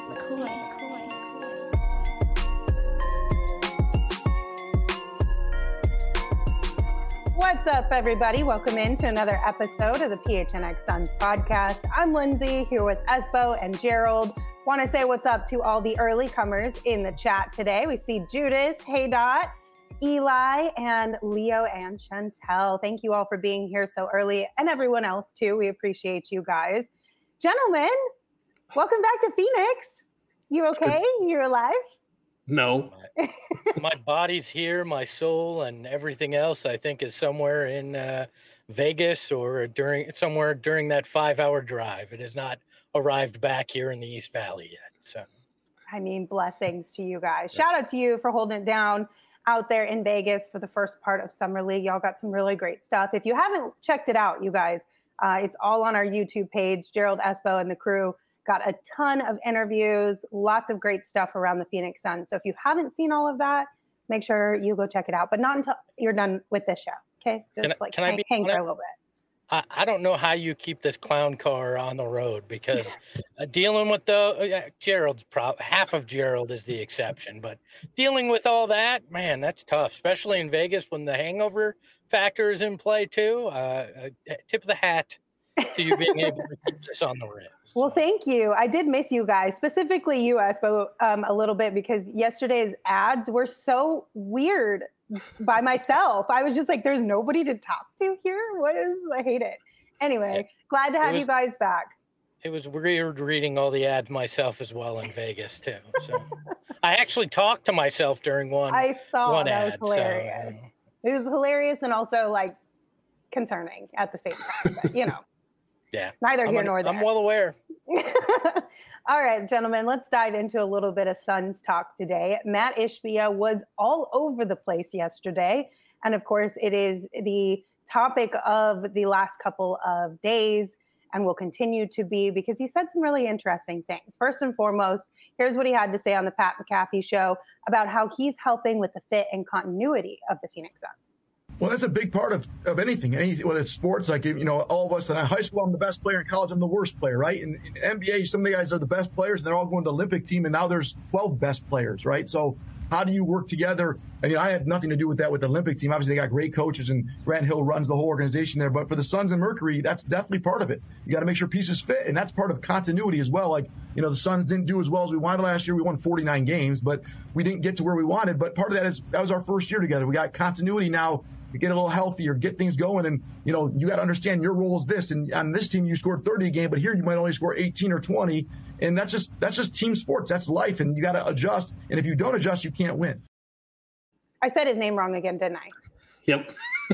What's up, everybody? Welcome into another episode of the PHNX Suns podcast. I'm Lindsay here with Espo and Gerald. Want to say what's up to all the early comers in the chat today. We see Judas, Hey Dot, Eli, and Leo and Chantel. Thank you all for being here so early, and everyone else too. We appreciate you guys. Gentlemen, welcome back to Phoenix. You okay? You're alive? No. My body's here, my soul and everything else, I think, is somewhere in Vegas or somewhere during that 5-hour drive. It has not arrived back here in the East Valley yet. So, I mean, blessings to you guys. Shout out to you for holding it down out there in Vegas for the first part of Summer League. Y'all got some really great stuff. If you haven't checked it out, you guys, it's all on our YouTube page. Gerald, Espo, and the crew got a ton of interviews, lots of great stuff around the Phoenix Suns. So if you haven't seen all of that, make sure you go check it out, but not until you're done with this show. Okay. Just hang for a little bit. I don't know how you keep this clown car on the road because dealing with Gerald's half of Gerald is the exception, but dealing with all that, man, that's tough, especially in Vegas when the hangover factor is in play too. Tip of the hat to you being able to keep this on the rails. Well, thank you. I did miss you guys, specifically you, Espo, a little bit because yesterday's ads were so weird by myself. I was just like, there's nobody to talk to here. I hate it. Anyway, glad to have you guys back. It was weird reading all the ads myself as well in Vegas too. So I actually talked to myself during one. I saw one that ad, was hilarious. It was hilarious and also like concerning at the same time. But, yeah. Neither here nor there. I'm well aware. All right, gentlemen, let's dive into a little bit of Suns talk today. Mat Ishbia was all over the place yesterday. And of course, it is the topic of the last couple of days and will continue to be because he said some really interesting things. First and foremost, here's what he had to say on the Pat McAfee show about how he's helping with the fit and continuity of the Phoenix Suns. Well, that's a big part of anything, whether it's sports, like, all of us in high school, I'm the best player. In college, I'm the worst player, right? In NBA, some of the guys are the best players, and they're all going to the Olympic team, and now there's 12 best players, right? So how do you work together? I mean, I had nothing to do with that with the Olympic team. Obviously, they got great coaches, and Grant Hill runs the whole organization there. But for the Suns and Mercury, that's definitely part of it. You got to make sure pieces fit, and that's part of continuity as well. Like, the Suns didn't do as well as we wanted last year. We won 49 games, but we didn't get to where we wanted. But part of that was our first year together. We got continuity now. To get a little healthier, get things going, and you got to understand your role is this. And on this team, you scored 30 a game, but here you might only score 18 or 20, and that's just team sports. That's life, and you got to adjust. And if you don't adjust, you can't win. I said his name wrong again, didn't I? Yep.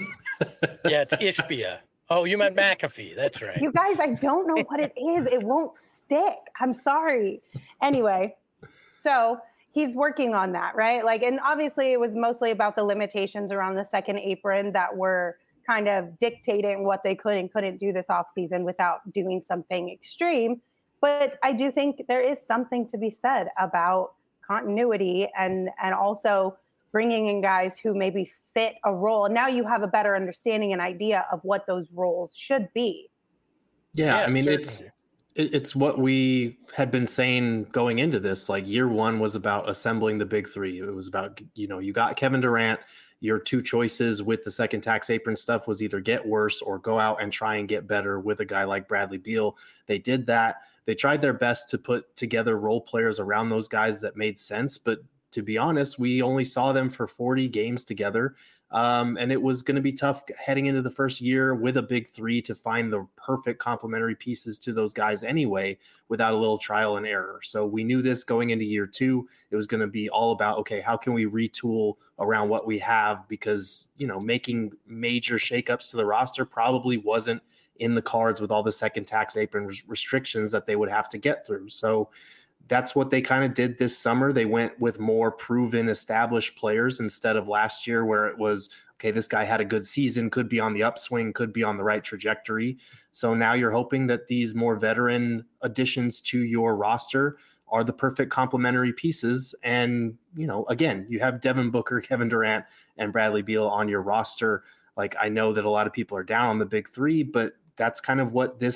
Yeah, it's Ishbia. Oh, you meant McAfee. That's right. You guys, I don't know what it is. It won't stick. I'm sorry. Anyway, so he's working on that, right? And obviously it was mostly about the limitations around the second apron that were kind of dictating what they could and couldn't do this offseason without doing something extreme. But I do think there is something to be said about continuity and also bringing in guys who maybe fit a role. And now you have a better understanding and idea of what those roles should be. Yeah, I mean, certainly. It's what we had been saying going into this. Like, year one was about assembling the big three. It was about, you got Kevin Durant. Your two choices with the second tax apron stuff was either get worse or go out and try and get better with a guy like Bradley Beal. They did that. They tried their best to put together role players around those guys that made sense. But to be honest, we only saw them for 40 games together. And it was going to be tough heading into the first year with a big three to find the perfect complementary pieces to those guys anyway, without a little trial and error. So we knew this going into year two. It was going to be all about, okay, how can we retool around what we have? Because, making major shakeups to the roster probably wasn't in the cards with all the second tax apron restrictions that they would have to get through. So that's what they kind of did this summer. They went with more proven, established players instead of last year where it was, okay, this guy had a good season, could be on the upswing, could be on the right trajectory. So now you're hoping that these more veteran additions to your roster are the perfect complementary pieces. And, again, you have Devin Booker, Kevin Durant, and Bradley Beal on your roster. Like, I know that a lot of people are down on the big three, but that's kind of what this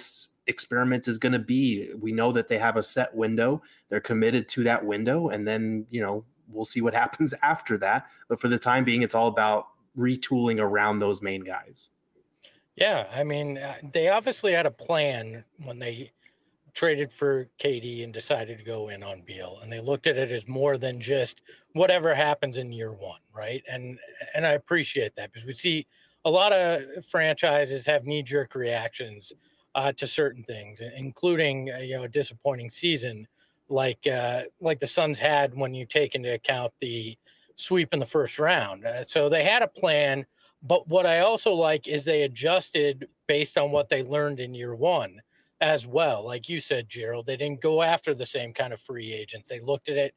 experiment is going to be. We know that they have a set window. They're committed to that window. And then, we'll see what happens after that. But for the time being, it's all about retooling around those main guys. Yeah. I mean, they obviously had a plan when they traded for KD and decided to go in on Beal, and they looked at it as more than just whatever happens in year one, right? And I appreciate that, because we see a lot of franchises have knee-jerk reactions to certain things, including a disappointing season like the Suns had when you take into account the sweep in the first round. So they had a plan, but what I also like is they adjusted based on what they learned in year one as well. Like you said, Gerald, they didn't go after the same kind of free agents. They looked at it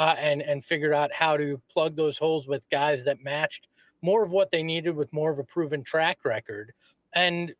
and figured out how to plug those holes with guys that matched more of what they needed with more of a proven track record. And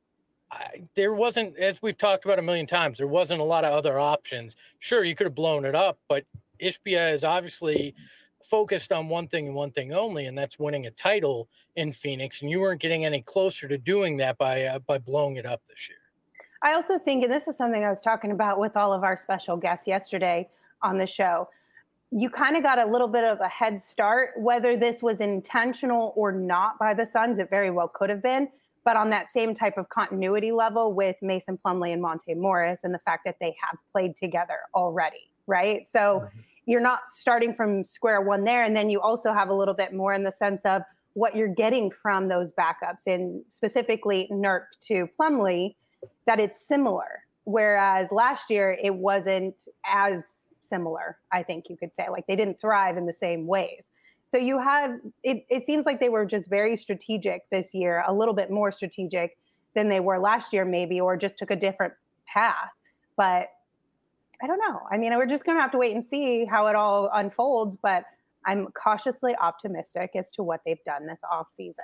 there wasn't, as we've talked about a million times, there wasn't a lot of other options. Sure, you could have blown it up, but Ishbia is obviously focused on one thing and one thing only, and that's winning a title in Phoenix. And you weren't getting any closer to doing that by blowing it up this year. I also think, and this is something I was talking about with all of our special guests yesterday on the show, you kind of got a little bit of a head start, whether this was intentional or not by the Suns. It very well could have been, but on that same type of continuity level with Mason Plumlee and Monte Morris, and the fact that they have played together already, right? So you're not starting from square one there. And then you also have a little bit more in the sense of what you're getting from those backups, and specifically Nurk to Plumlee, that it's similar. Whereas last year it wasn't as similar, I think you could say. Like, they didn't thrive in the same ways. So you have, it seems like they were just very strategic this year, a little bit more strategic than they were last year maybe, or just took a different path. But I don't know. I mean, we're just going to have to wait and see how it all unfolds, but I'm cautiously optimistic as to what they've done this offseason.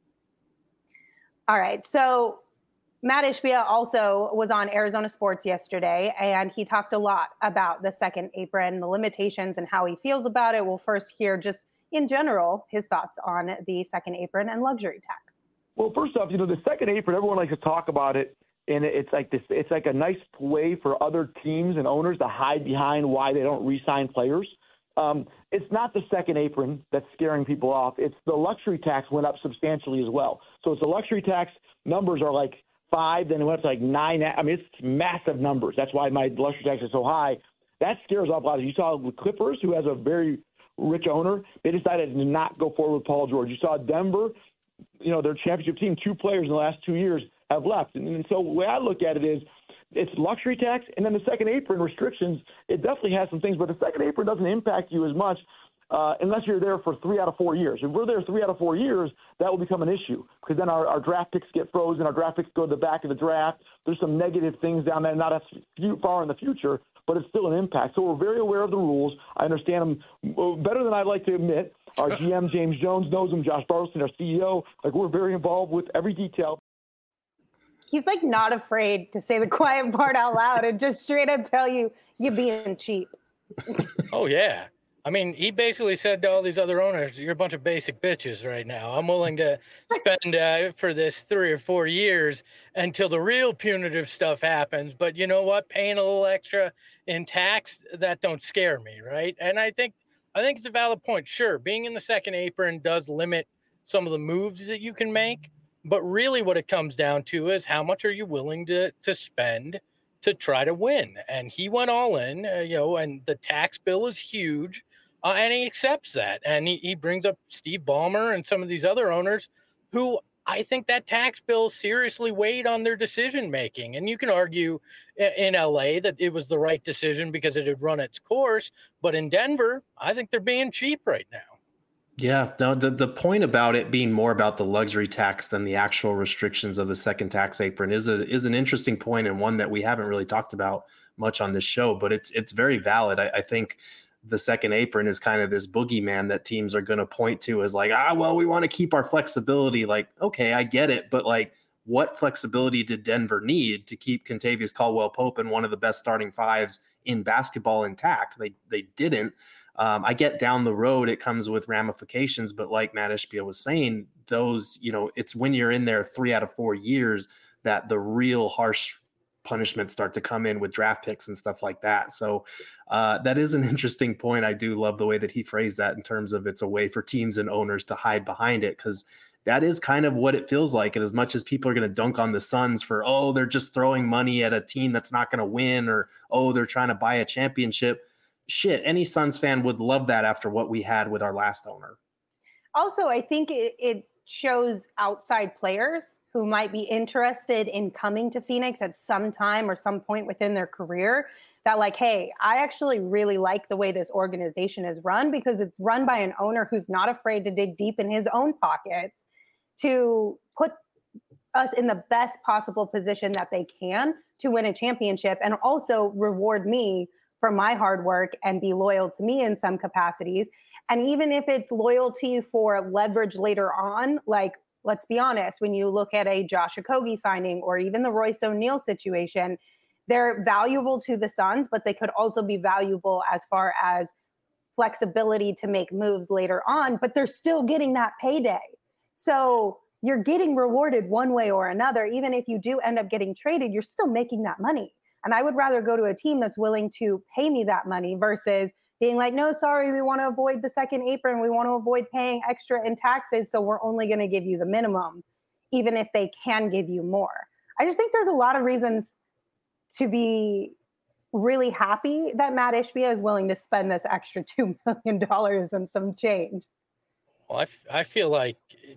All right. So Matt Ishbia also was on Arizona Sports yesterday, and he talked a lot about the second apron, the limitations, and how he feels about it. We'll first hear just in general his thoughts on the second apron and luxury tax. Well, first off, the second apron, everyone likes to talk about it, and it's like this. It's like a nice way for other teams and owners to hide behind why they don't re-sign players. It's not the second apron that's scaring people off. It's the luxury tax went up substantially as well. So it's the luxury tax numbers are like 5, then it went up to like 9. I mean, it's massive numbers. That's why my luxury tax is so high. That scares off a lot. You saw with Clippers, who has a very rich owner, they decided to not go forward with Paul George. You saw Denver, their championship team, 2 players in the last 2 years have left. And so the way I look at it is it's luxury tax, and then the second apron restrictions, it definitely has some things, but the second apron doesn't impact you as much unless you're there for 3 out of 4 years. If we're there 3 out of 4 years, that will become an issue, because then our draft picks get frozen, our draft picks go to the back of the draft. There's some negative things down there, not as far in the future, but it's still an impact. So we're very aware of the rules. I understand them better than I'd like to admit. Our GM, James Jones, knows them. Josh Bartleston, our CEO, we're very involved with every detail. He's not afraid to say the quiet part out loud and just straight up tell you you're being cheap. Oh, yeah. I mean, he basically said to all these other owners, you're a bunch of basic bitches right now. I'm willing to spend for this 3 or 4 years until the real punitive stuff happens. But you know what? Paying a little extra in tax, that don't scare me, right? And I think it's a valid point. Sure, being in the second apron does limit some of the moves that you can make. But really what it comes down to is how much are you willing to spend to try to win? And he went all in, and the tax bill is huge. And he accepts that. And he brings up Steve Ballmer and some of these other owners who I think that tax bill seriously weighed on their decision making. And you can argue in LA that it was the right decision because it had run its course. But in Denver, I think they're being cheap right now. Yeah, no, the point about it being more about the luxury tax than the actual restrictions of the second tax apron is an interesting point, and one that we haven't really talked about much on this show, but it's very valid. I think the second apron is kind of this boogeyman that teams are going to point to as well, we want to keep our flexibility. Okay, I get it, but what flexibility did Denver need to keep Kentavious Caldwell-Pope and one of the best starting fives in basketball intact? They didn't. I get down the road, it comes with ramifications, but like Matt Ishbia was saying, those, it's when you're in there 3 out of 4 years that the real harsh punishments start to come in with draft picks and stuff like that. So that is an interesting point. I do love the way that he phrased that in terms of it's a way for teams and owners to hide behind it, because that is kind of what it feels like. And as much as people are going to dunk on the Suns for, oh, they're just throwing money at a team that's not going to win, or, oh, they're trying to buy a championship. Shit, any Suns fan would love that after what we had with our last owner. Also, I think it shows outside players who might be interested in coming to Phoenix at some time or some point within their career that, like, hey, I actually really like the way this organization is run, because it's run by an owner who's not afraid to dig deep in his own pockets to put us in the best possible position that they can to win a championship, and also reward me for my hard work and be loyal to me in some capacities. And even if it's loyalty for leverage later on, like, let's be honest, when you look at a Josh Okogie signing or even the Royce O'Neal situation, they're valuable to the Suns, but they could also be valuable as far as flexibility to make moves later on, but they're still getting that payday. So you're getting rewarded one way or another. Even if you do end up getting traded, you're still making that money. And I would rather go to a team that's willing to pay me that money versus being like, no, sorry, we want to avoid the second apron. We want to avoid paying extra in taxes. So we're only going to give you the minimum, even if they can give you more. I just think there's a lot of reasons to be really happy that Matt Ishbia is willing to spend this extra $2 million and some change. Well, I feel like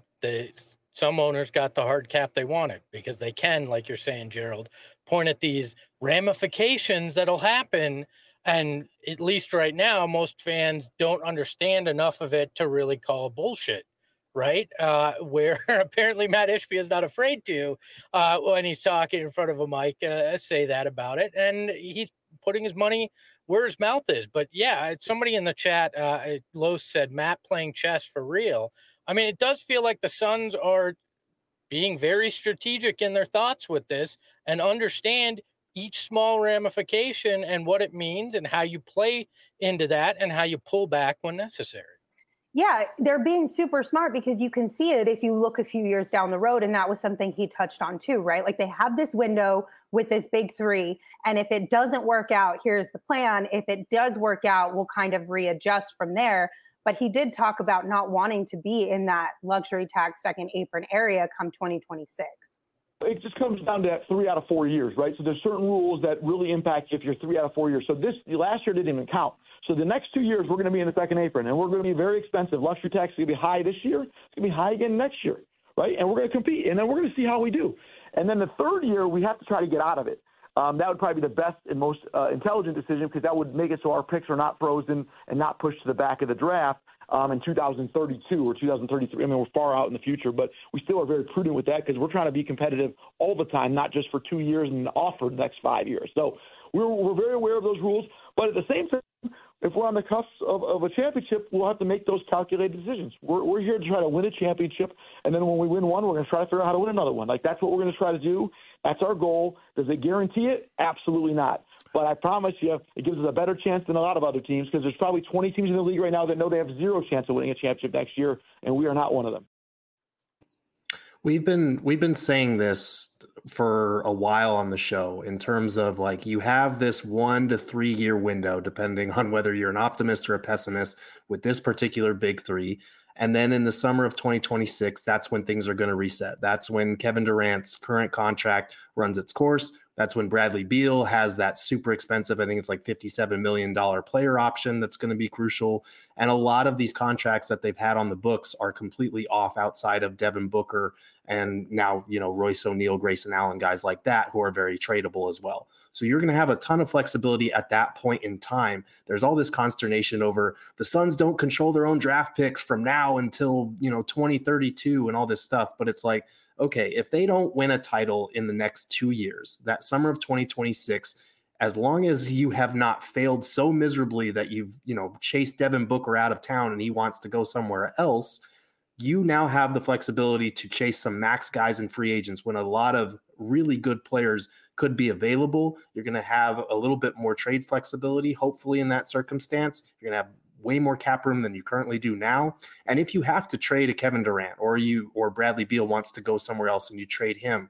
some owners got the hard cap they wanted, because they can, like you're saying, Gerald, point at these ramifications that'll happen. And at least right now, most fans don't understand enough of it to really call bullshit, right? Where apparently Matt Ishbia is not afraid to, when he's talking in front of a mic, say that about it. And he's putting his money where his mouth is. But yeah, somebody in the chat, Los said, Matt playing chess for real. I mean, it does feel like the Suns are being very strategic in their thoughts with this and understand each small ramification and what it means and how you play into that and how you pull back when necessary. Yeah, they're being super smart, because you can see it if you look a few years down the road. And that was something he touched on too, right? Like, they have this window with this big three. And if it doesn't work out, here's the plan. If it does work out, we'll kind of readjust from there. But he did talk about not wanting to be in that luxury tax second apron area come 2026. It just comes down to that 3 out of 4 years, right? So there's certain rules that really impact you if you're 3 out of 4 years. So last year didn't even count. So the next 2 years, we're going to be in the second apron, and we're going to be very expensive. Luxury tax is going to be high this year. It's going to be high again next year, right? And we're going to compete, and then we're going to see how we do. And then the third year, we have to try to get out of it. That would probably be the best and most intelligent decision, because that would make it so our picks are not frozen and not pushed to the back of the draft in 2032 or 2033. I mean, we're far out in the future, but we still are very prudent with that, because we're trying to be competitive all the time, not just for 2 years and off for the next 5 years. So we're very aware of those rules. But at the same time, if we're on the cusp of a championship, we'll have to make those calculated decisions. We're here to try to win a championship, and then when we win one, we're going to try to figure out how to win another one. Like, that's what we're going to try to do. That's our goal. Does it guarantee it? Absolutely not. But I promise you, it gives us a better chance than a lot of other teams, because there's probably 20 teams in the league right now that know they have zero chance of winning a championship next year, and we are not one of them. We've been saying this for a while on the show, in terms of, like, you have this 1 to 3 year window, depending on whether you're an optimist or a pessimist, with this particular big three. And then in the summer of 2026, that's when things are going to reset. That's when Kevin Durant's current contract runs its course. That's when Bradley Beal has that super expensive, I think it's like $57 million player option that's going to be crucial. And a lot of these contracts that they've had on the books are completely off, outside of Devin Booker and now, Royce O'Neal, Grayson Allen, guys like that, who are very tradable as well. So you're going to have a ton of flexibility at that point in time. There's all this consternation over the Suns don't control their own draft picks from now until, 2032 and all this stuff. But it's like, okay, if they don't win a title in the next 2 years, that summer of 2026, as long as you have not failed so miserably that you've, chased Devin Booker out of town and he wants to go somewhere else, you now have the flexibility to chase some max guys and free agents when a lot of really good players could be available. You're going to have a little bit more trade flexibility, hopefully, in that circumstance. You're going to have way more cap room than you currently do now. And if you have to trade a Kevin Durant, or Bradley Beal wants to go somewhere else and you trade him,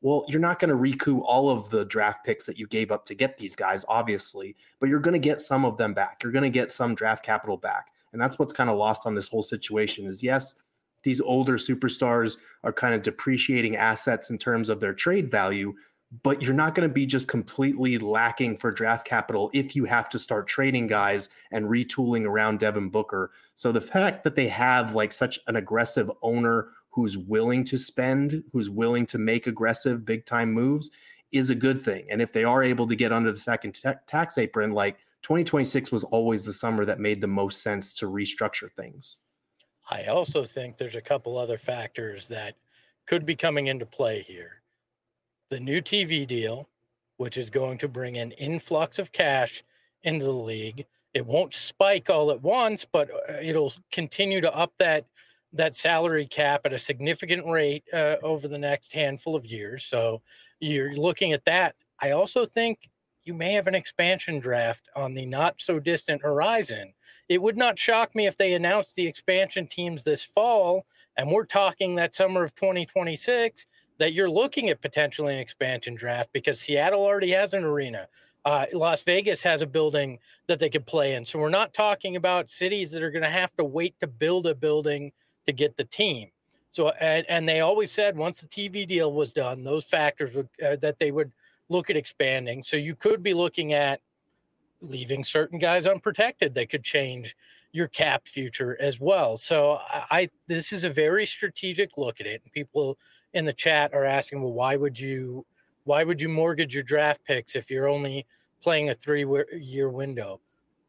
Well, you're not going to recoup all of the draft picks that you gave up to get these guys, obviously, but you're going to get some of them back. You're going to get some draft capital back. And that's what's kind of lost on this whole situation is, yes, these older superstars are kind of depreciating assets in terms of their trade value, but you're not going to be just completely lacking for draft capital if you have to start trading guys and retooling around Devin Booker. So the fact that they have like such an aggressive owner who's willing to spend, who's willing to make aggressive big time moves is a good thing. And if they are able to get under the second tax apron, like 2026 was always the summer that made the most sense to restructure things. I also think there's a couple other factors that could be coming into play here. The new TV deal, which is going to bring an influx of cash into the league. It won't spike all at once, but it'll continue to up that salary cap at a significant rate over the next handful of years. So you're looking at that. I also think you may have an expansion draft on the not so distant horizon. It would not shock me if they announced the expansion teams this fall, and we're talking that summer of 2026, that you're looking at potentially an expansion draft because Seattle already has an arena. Las Vegas has a building that they could play in. So we're not talking about cities that are going to have to wait to build a building to get the team. So, and they always said once the TV deal was done, those factors would, that they would look at expanding. So you could be looking at leaving certain guys unprotected. They could change your cap future as well. So this is a very strategic look at it. And people in the chat are asking, well, why would you mortgage your draft picks if you're only playing a 3-year window?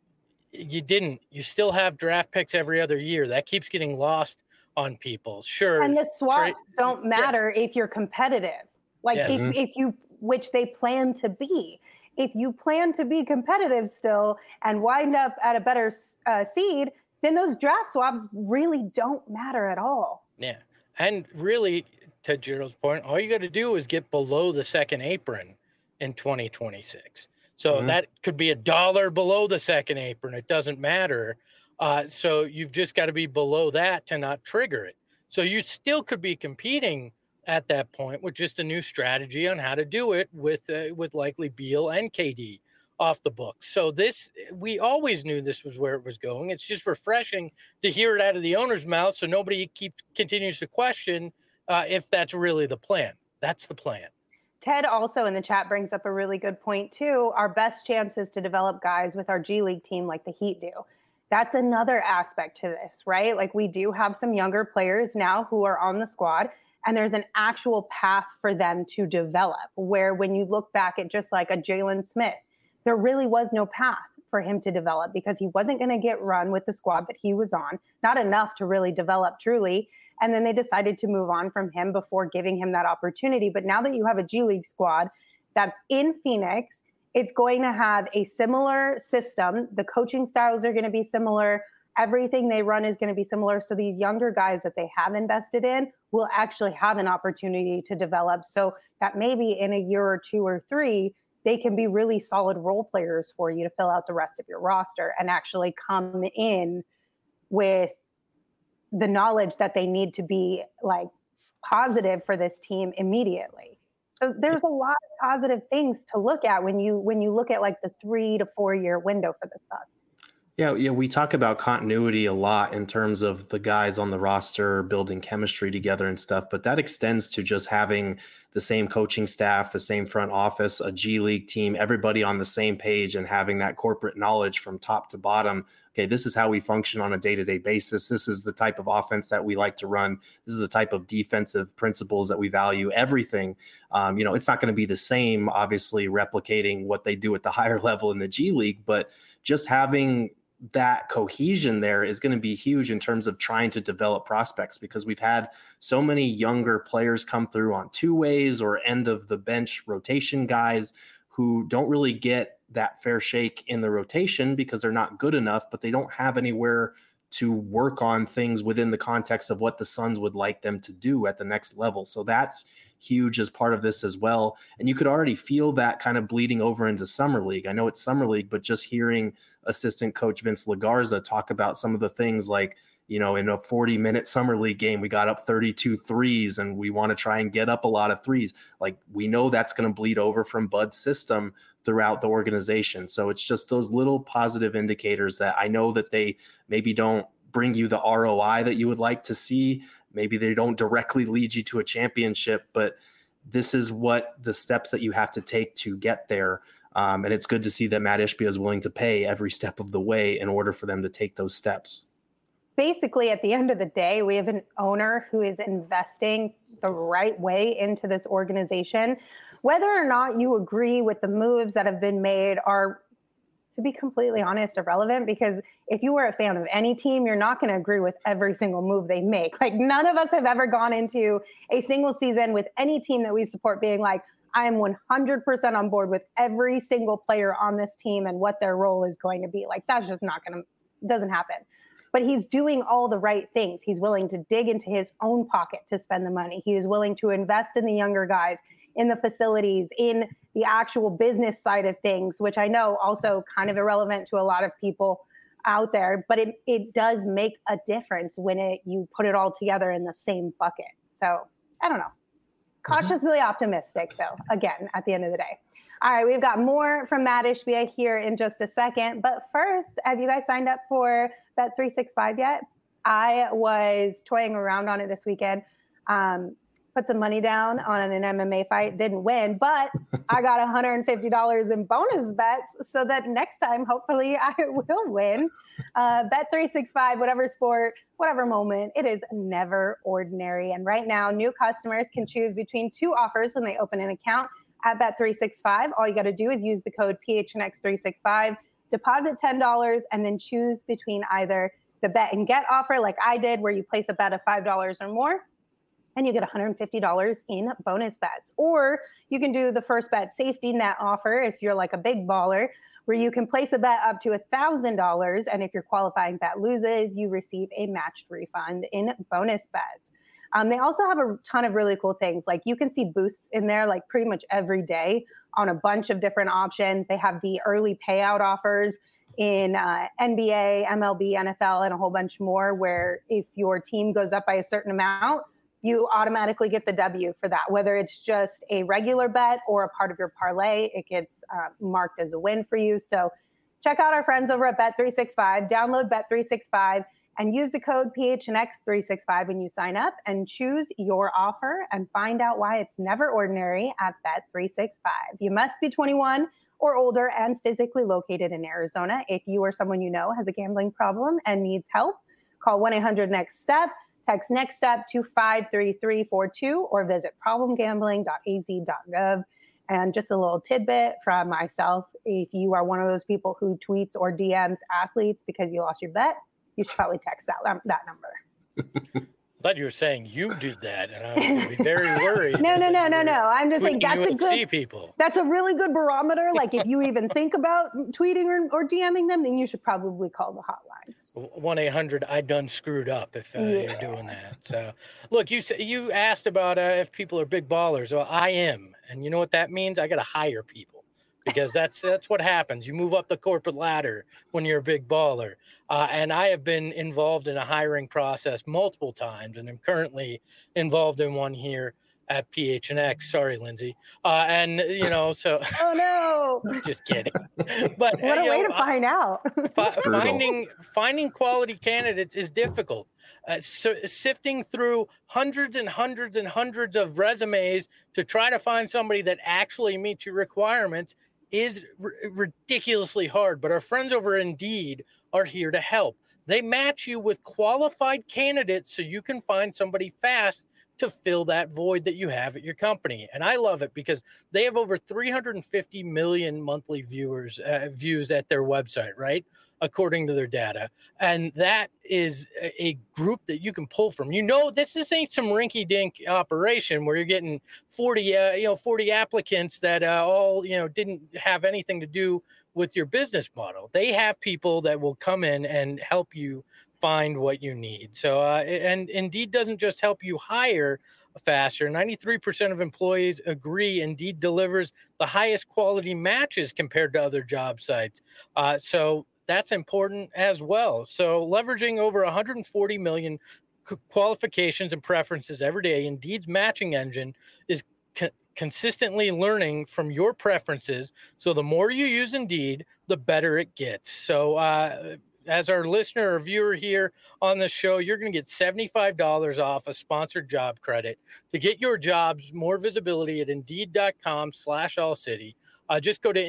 You still have draft picks every other year. That keeps getting lost on people. Sure. And the swaps don't matter if you're competitive. Like Yes. if you, which they plan to be. If you plan to be competitive still and wind up at a better seed, then those draft swaps really don't matter at all. Yeah. And really, to Gerald's point, all you got to do is get below the second apron in 2026. So that could be $1 below the second apron. It doesn't matter. So you've just got to be below that to not trigger it. So you still could be competing at that point with just a new strategy on how to do it with likely Beal and KD off the books. So we always knew this was where it was going. It's just refreshing to hear it out of the owner's mouth, so nobody continues to question if that's really the plan. That's the plan. Ted also in the chat brings up a really good point too. Our best chance is to develop guys with our G League team like the Heat do. That's another aspect to this, right? Like we do have some younger players now who are on the squad, and there's an actual path for them to develop, where when you look back at just like a Jalen Smith, there really was no path for him to develop because he wasn't going to get run with the squad that he was on, not enough to really develop truly. And then they decided to move on from him before giving him that opportunity. But now that you have a G League squad that's in Phoenix, it's going to have a similar system. The coaching styles are going to be similar. Everything they run is going to be similar. So these younger guys that they have invested in will actually have an opportunity to develop. So that maybe in a year or 2 or 3, they can be really solid role players for you to fill out the rest of your roster and actually come in with the knowledge that they need to be like positive for this team immediately. So there's a lot of positive things to look at when you look at like the 3 to 4 year window for the Suns. Yeah, we talk about continuity a lot in terms of the guys on the roster building chemistry together and stuff, but that extends to just having the same coaching staff, the same front office, a G League team, everybody on the same page and having that corporate knowledge from top to bottom. Okay, this is how we function on a day-to-day basis. This is the type of offense that we like to run. This is the type of defensive principles that we value. Everything, it's not going to be the same, obviously replicating what they do at the higher level in the G League, but just having that cohesion there is going to be huge in terms of trying to develop prospects, because we've had so many younger players come through on 2-ways or end of the bench rotation guys who don't really get that fair shake in the rotation because they're not good enough, but they don't have anywhere to work on things within the context of what the Suns would like them to do at the next level. So that's huge as part of this as well. And you could already feel that kind of bleeding over into Summer League. I know it's Summer League, but just hearing assistant coach Vince LaGarza talk about some of the things like, you know, in a 40-minute summer league game, we got up 32 threes and we want to try and get up a lot of threes. Like, we know that's going to bleed over from Bud's system throughout the organization. So it's just those little positive indicators that I know that they maybe don't bring you the ROI that you would like to see. Maybe they don't directly lead you to a championship, but this is what the steps that you have to take to get there. And it's good to see that Matt Ishbia is willing to pay every step of the way in order for them to take those steps. Basically, at the end of the day, we have an owner who is investing the right way into this organization. Whether or not you agree with the moves that have been made are, to be completely honest, irrelevant, because if you were a fan of any team, you're not going to agree with every single move they make. Like, none of us have ever gone into a single season with any team that we support being like, I am 100% on board with every single player on this team and what their role is going to be. Like, that's just not going to, doesn't happen. But he's doing all the right things. He's willing to dig into his own pocket to spend the money. He is willing to invest in the younger guys, in the facilities, in the actual business side of things, which I know also kind of irrelevant to a lot of people out there, but it does make a difference when you put it all together in the same bucket. So I don't know. Cautiously optimistic, though, again, at the end of the day. All right, we've got more from Matt Ishbia here in just a second. But first, have you guys signed up for Bet365 yet? I was toying around on it this weekend. Put some money down on an MMA fight, didn't win, but I got $150 in bonus bets so that next time, hopefully, I will win. Bet365, whatever sport, whatever moment, it is never ordinary. And right now, new customers can choose between two offers when they open an account at Bet365. All you got to do is use the code PHNX365, deposit $10, and then choose between either the bet and get offer like I did, where you place a bet of $5 or more, and you get $150 in bonus bets. Or you can do the first bet safety net offer if you're like a big baller, where you can place a bet up to $1,000. And if your qualifying bet loses, you receive a matched refund in bonus bets. They also have a ton of really cool things. Like, you can see boosts in there like pretty much every day on a bunch of different options. They have the early payout offers in NBA, MLB, NFL, and a whole bunch more, where if your team goes up by a certain amount, you automatically get the W for that. Whether it's just a regular bet or a part of your parlay, it gets marked as a win for you. So check out our friends over at Bet365. Download Bet365 and use the code PHNX365 when you sign up, and choose your offer and find out why it's never ordinary at Bet365. You must be 21 or older and physically located in Arizona. If you or someone you know has a gambling problem and needs help, call 1-800-NEXT-STEP. Text Next Step to 53342 or visit problemgambling.az.gov. And just a little tidbit from myself: if you are one of those people who tweets or DMs athletes because you lost your bet, you should probably text that number. I thought you were saying you did that, and I was going to be very worried. No. I'm just saying that's a good. People. That's a really good barometer. Like, if you even think about tweeting or DMing them, then you should probably call the hotline. 1-800 I done screwed up if you're doing that. So, look, you asked about if people are big ballers. Well, I am, and you know what that means? I got to hire people, because that's what happens. You move up the corporate ladder when you're a big baller. And I have been involved in a hiring process multiple times, and I'm currently involved in one here at PHNX. Sorry, Lindsay. And, so. Oh, no. Just kidding. But what a way to find out. Finding quality candidates is difficult. So sifting through hundreds and hundreds and hundreds of resumes to try to find somebody that actually meets your requirements is ridiculously hard. But our friends over Indeed are here to help. They match you with qualified candidates so you can find somebody fast to fill that void that you have at your company. And I love it because they have over 350 million monthly views at their website, right? According to their data. And that is a group that you can pull from. This ain't some rinky-dink operation where you're getting 40 applicants that all didn't have anything to do with your business model. They have people that will come in and help you find what you need. So, and Indeed doesn't just help you hire faster. 93% of employees agree Indeed delivers the highest quality matches compared to other job sites. So that's important as well. So leveraging over 140 million qualifications and preferences every day, Indeed's matching engine is consistently learning from your preferences. So the more you use Indeed, the better it gets. So as our listener or viewer here on the show, you're going to get $75 off a sponsored job credit to get your jobs more visibility at Indeed.com/AllCity. Just go to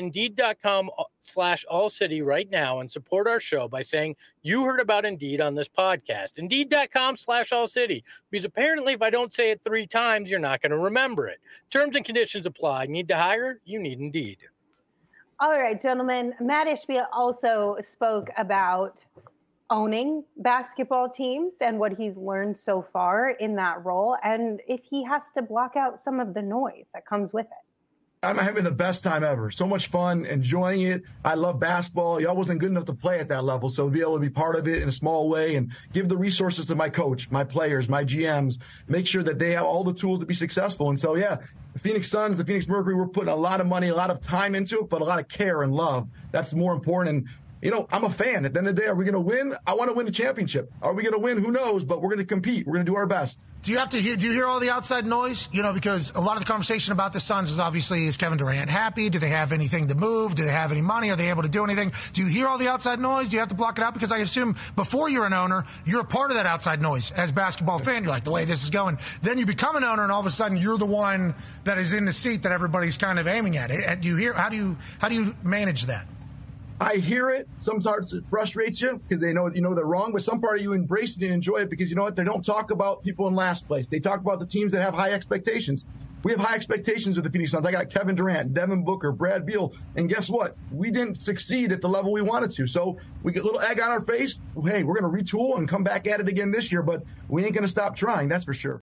Indeed.com/AllCity right now and support our show by saying you heard about Indeed on this podcast. Indeed.com/AllCity. Because apparently if I don't say it 3 times, you're not going to remember it. Terms and conditions apply. Need to hire? You need Indeed. All right, gentlemen. Matt Ishbia also spoke about owning basketball teams and what he's learned so far in that role, and if he has to block out some of the noise that comes with it. I'm having the best time ever. So much fun, enjoying it. I love basketball. Y'all wasn't good enough to play at that level, so to be able to be part of it in a small way and give the resources to my coach, my players, my GMs, make sure that they have all the tools to be successful. And so, yeah, the Phoenix Suns, the Phoenix Mercury, we're putting a lot of money, a lot of time into it, but a lot of care and love. That's more important. And, you know, I'm a fan. At the end of the day, are we going to win? I want to win a championship. Are we going to win? Who knows? But we're going to compete. We're going to do our best. Do you hear all the outside noise? You know, because a lot of the conversation about the Suns is obviously, is Kevin Durant happy? Do they have anything to move? Do they have any money? Are they able to do anything? Do you hear all the outside noise? Do you have to block it out? Because I assume before you're an owner, you're a part of that outside noise as a basketball fan. You're like, the way this is going. Then you become an owner, and all of a sudden you're the one that is in the seat that everybody's kind of aiming at. Do you hear? How do you manage that? I hear it. Some parts it frustrates you because they know they're wrong, but some part of you embrace it and enjoy it because you know what? They don't talk about people in last place. They talk about the teams that have high expectations. We have high expectations with the Phoenix Suns. I got Kevin Durant, Devin Booker, Brad Beal, and guess what? We didn't succeed at the level we wanted to. So we get a little egg on our face. Hey, we're going to retool and come back at it again this year, but we ain't going to stop trying. That's for sure.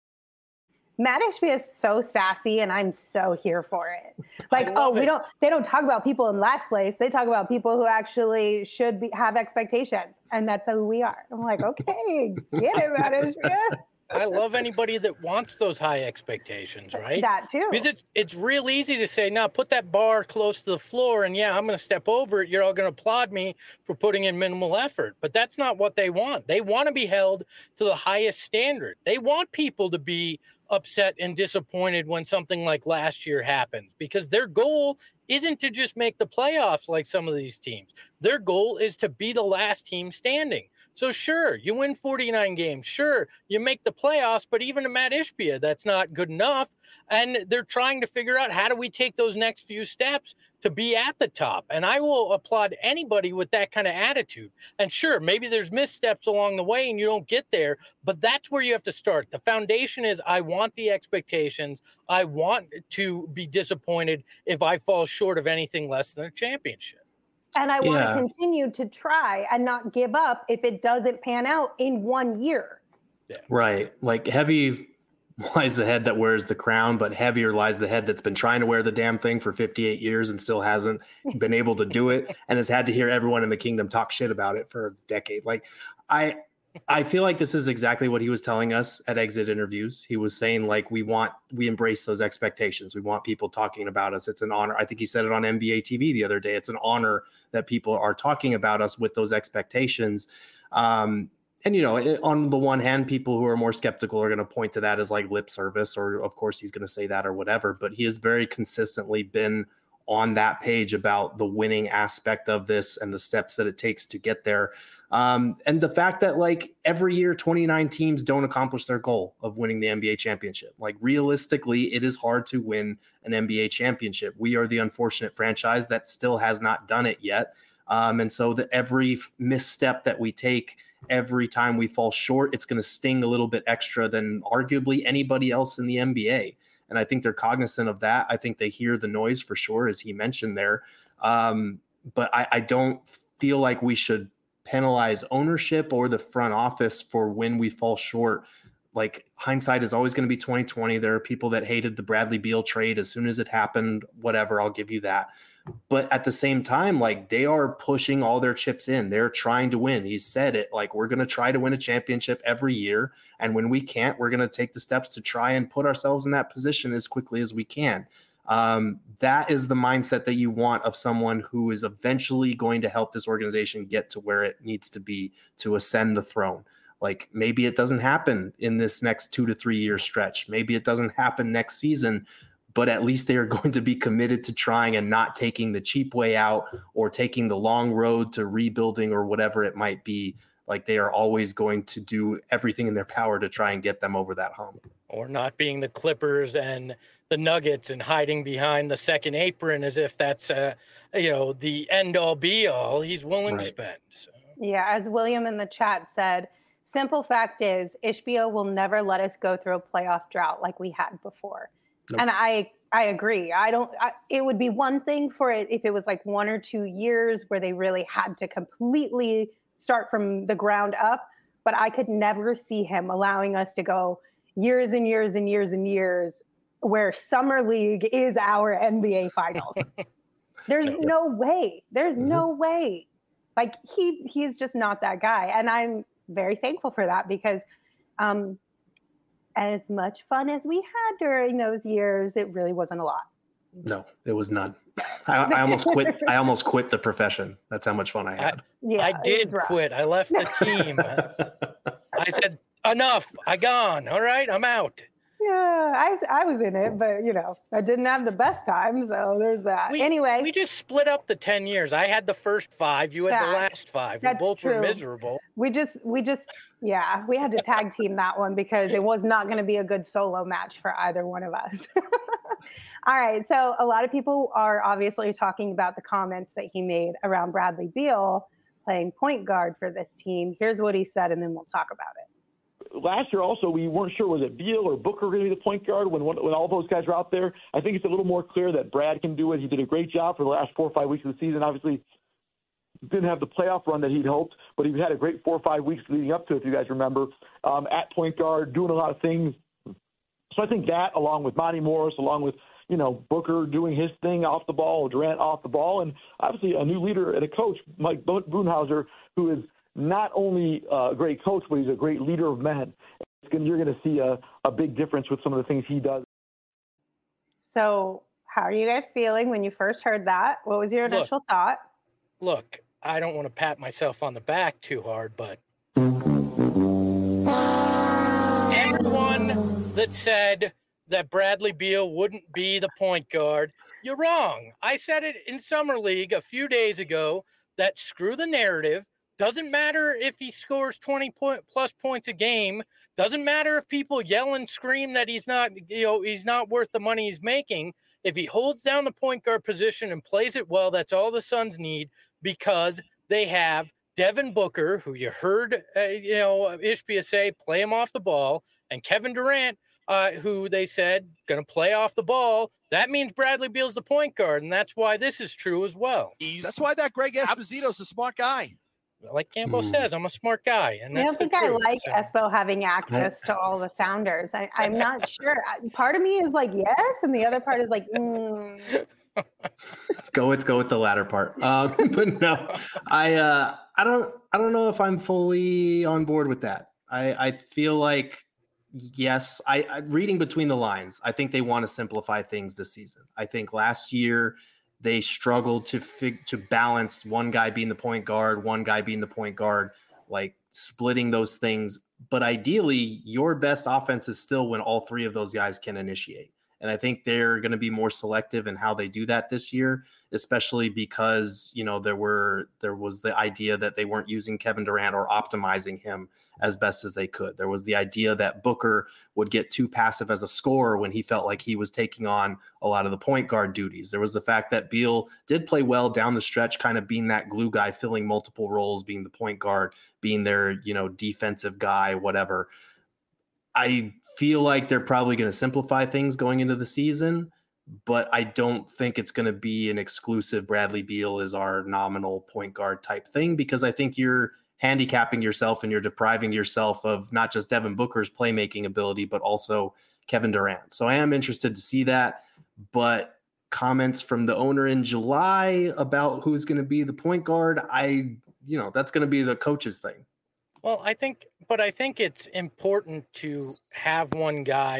Matt Ishbia is so sassy, and I'm so here for it. Like, they don't talk about people in last place. They talk about people who actually should have expectations, and that's who we are. I'm like, okay, get it, Matt Ishbia. I love anybody that wants those high expectations, right? That too. Because it's real easy to say, now put that bar close to the floor, and yeah, I'm going to step over it. You're all going to applaud me for putting in minimal effort. But that's not what they want. They want to be held to the highest standard. They want people to be upset and disappointed when something like last year happens, because their goal isn't to just make the playoffs like some of these teams. Their goal is to be the last team standing. So sure, you win 49 games. Sure, you make the playoffs, but even to Matt Ishbia, that's not good enough. And they're trying to figure out, how do we take those next few steps to be at the top? And I will applaud anybody with that kind of attitude. And sure, maybe there's missteps along the way and you don't get there, but that's where you have to start. The foundation is, I want the expectations. I want to be disappointed if I fall short of anything less than a championship. And I want to continue to try and not give up if it doesn't pan out in 1 year. Yeah. Right. Like, heavy lies the head that wears the crown, but heavier lies the head that's been trying to wear the damn thing for 58 years and still hasn't been able to do it and has had to hear everyone in the kingdom talk shit about it for a decade. Like, I feel like this is exactly what he was telling us at exit interviews. He was saying, like, we embrace those expectations. We want people talking about us. It's an honor. I think he said it on NBA TV the other day. It's an honor that people are talking about us with those expectations. And, you know, on the one hand, people who are more skeptical are going to point to that as like lip service, or of course he's going to say that or whatever, but he has very consistently been on that page about the winning aspect of this and the steps that it takes to get there. And the fact that, like, every year 29 teams don't accomplish their goal of winning the NBA championship. Like, realistically, it is hard to win an NBA championship. We are the unfortunate franchise that still has not done it yet. And so that every misstep that we take, every time we fall short, it's going to sting a little bit extra than arguably anybody else in the NBA. And I think they're cognizant of that. I think they hear the noise for sure, as he mentioned there. But I don't feel like we should penalize ownership or the front office for when we fall short. Like, hindsight is always going to be 2020. There are people that hated the Bradley Beal trade as soon as it happened, whatever, I'll give you that. But at the same time, like, they are pushing all their chips in. They're trying to win. He said it, like, we're going to try to win a championship every year. And when we can't, we're going to take the steps to try and put ourselves in that position as quickly as we can. That is the mindset that you want of someone who is eventually going to help this organization get to where it needs to be to ascend the throne. Like maybe it doesn't happen in this next 2 to 3 year stretch. Maybe it doesn't happen next season, but at least they are going to be committed to trying and not taking the cheap way out or taking the long road to rebuilding or whatever it might be. Like they are always going to do everything in their power to try and get them over that hump. Or not being the Clippers and the Nuggets and hiding behind the second apron as if that's, the end all be all he's willing to spend. So. Yeah, as William in the chat said, simple fact is Ishbia will never let us go through a playoff drought like we had before. Nope. And I agree. It would be one thing for it if it was like 1 or 2 years where they really had to completely start from the ground up, but I could never see him allowing us to go years and years and years and years where Summer League is our NBA Finals. There's no way. There's no way. Like he's just not that guy. And I'm very thankful for that because as much fun as we had during those years, it really wasn't a lot. No, it was none. I almost quit. I almost quit the profession. That's how much fun I had. I did quit. I left the team. I said, enough. I gone. All right, I'm out. Yeah, I was in it, but I didn't have the best time, so there's that. Anyway, we just split up the 10 years. I had the first 5. You had the last 5. We both were miserable. We had to tag team that one because it was not going to be a good solo match for either one of us. All right, so a lot of people are obviously talking about the comments that he made around Bradley Beal playing point guard for this team. Here's what he said, and then we'll talk about it. Last year also, we weren't sure, was it Beal or Booker going to be the point guard when all those guys were out there? I think it's a little more clear that Brad can do it. He did a great job for the last 4 or 5 weeks of the season. Obviously, didn't have the playoff run that he'd hoped, but he had a great 4 or 5 weeks leading up to it, if you guys remember, at point guard, doing a lot of things. So I think that, along with Monty Morris, along with Booker doing his thing off the ball, Durant off the ball, and obviously a new leader and a coach, Mike Budenholzer, who is not only a great coach, but he's a great leader of men. You're going to see a big difference with some of the things he does. So how are you guys feeling when you first heard that? What was your initial thought? Look, I don't want to pat myself on the back too hard, but everyone that said that Bradley Beal wouldn't be the point guard, you're wrong. I said it in Summer League a few days ago that screw the narrative. Doesn't matter if he scores 20-plus points a game. Doesn't matter if people yell and scream that he's not worth the money he's making. If he holds down the point guard position and plays it well, that's all the Suns need because they have Devin Booker, who you heard, Ishbia say, play him off the ball, and Kevin Durant, who they said going to play off the ball. That means Bradley Beal's the point guard, and that's why this is true as well. That's why that Greg Esposito's a smart guy. Like Campbell says, I'm a smart guy. And I don't think I like Espo having access to all the sounders. I'm not sure. Part of me is like, yes. And the other part is like, Go with the latter part. But no, I don't know if I'm fully on board with that. I feel like, yes, I reading between the lines, I think they want to simplify things this season. I think last year, they struggled to balance one guy being the point guard, one guy being the point guard, like splitting those things. But ideally, your best offense is still when all 3 of those guys can initiate. And I think they're going to be more selective in how they do that this year, especially because, there was the idea that they weren't using Kevin Durant or optimizing him as best as they could. There was the idea that Booker would get too passive as a scorer when he felt like he was taking on a lot of the point guard duties. There was the fact that Beal did play well down the stretch, kind of being that glue guy, filling multiple roles, being the point guard, being their, defensive guy, whatever. I feel like they're probably going to simplify things going into the season, but I don't think it's going to be an exclusive Bradley Beal is our nominal point guard type thing, because I think you're handicapping yourself and you're depriving yourself of not just Devin Booker's playmaking ability, but also Kevin Durant. So I am interested to see that, but comments from the owner in July about who's going to be the point guard, that's going to be the coach's thing. Well, I think it's important to have one guy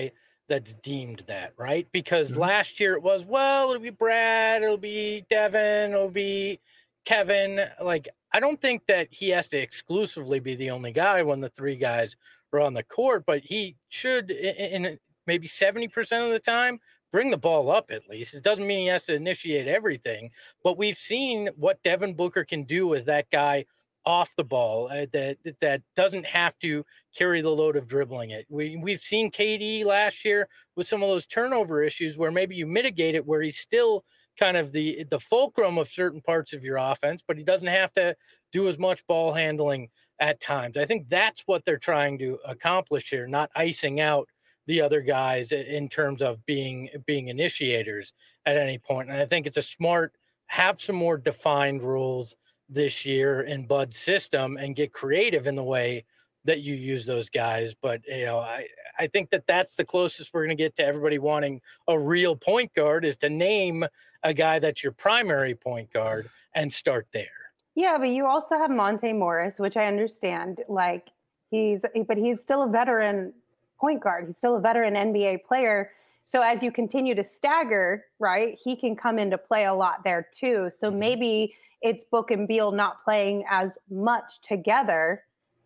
that's deemed that, right? Because last year it was, well, it'll be Brad, it'll be Devin, it'll be Kevin. Like, I don't think that he has to exclusively be the only guy when the three guys are on the court, but he should, in maybe 70% of the time, bring the ball up at least. It doesn't mean he has to initiate everything, but we've seen what Devin Booker can do as that guy off the ball that doesn't have to carry the load of dribbling it. We've seen KD last year with some of those turnover issues where maybe you mitigate it, where he's still kind of the fulcrum of certain parts of your offense, but he doesn't have to do as much ball handling at times. I think that's what they're trying to accomplish here, not icing out the other guys in terms of being initiators at any point. And I think it's a smart, have some more defined rules this year in Bud's system and get creative in the way that you use those guys. But, I think that that's the closest we're going to get to everybody wanting a real point guard, is to name a guy that's your primary point guard and start there. Yeah, but you also have Monte Morris, which I understand. Like, he's still a veteran point guard. He's still a veteran NBA player. So as you continue to stagger, right, he can come into play a lot there too. So maybe it's Book and Beal not playing as much together,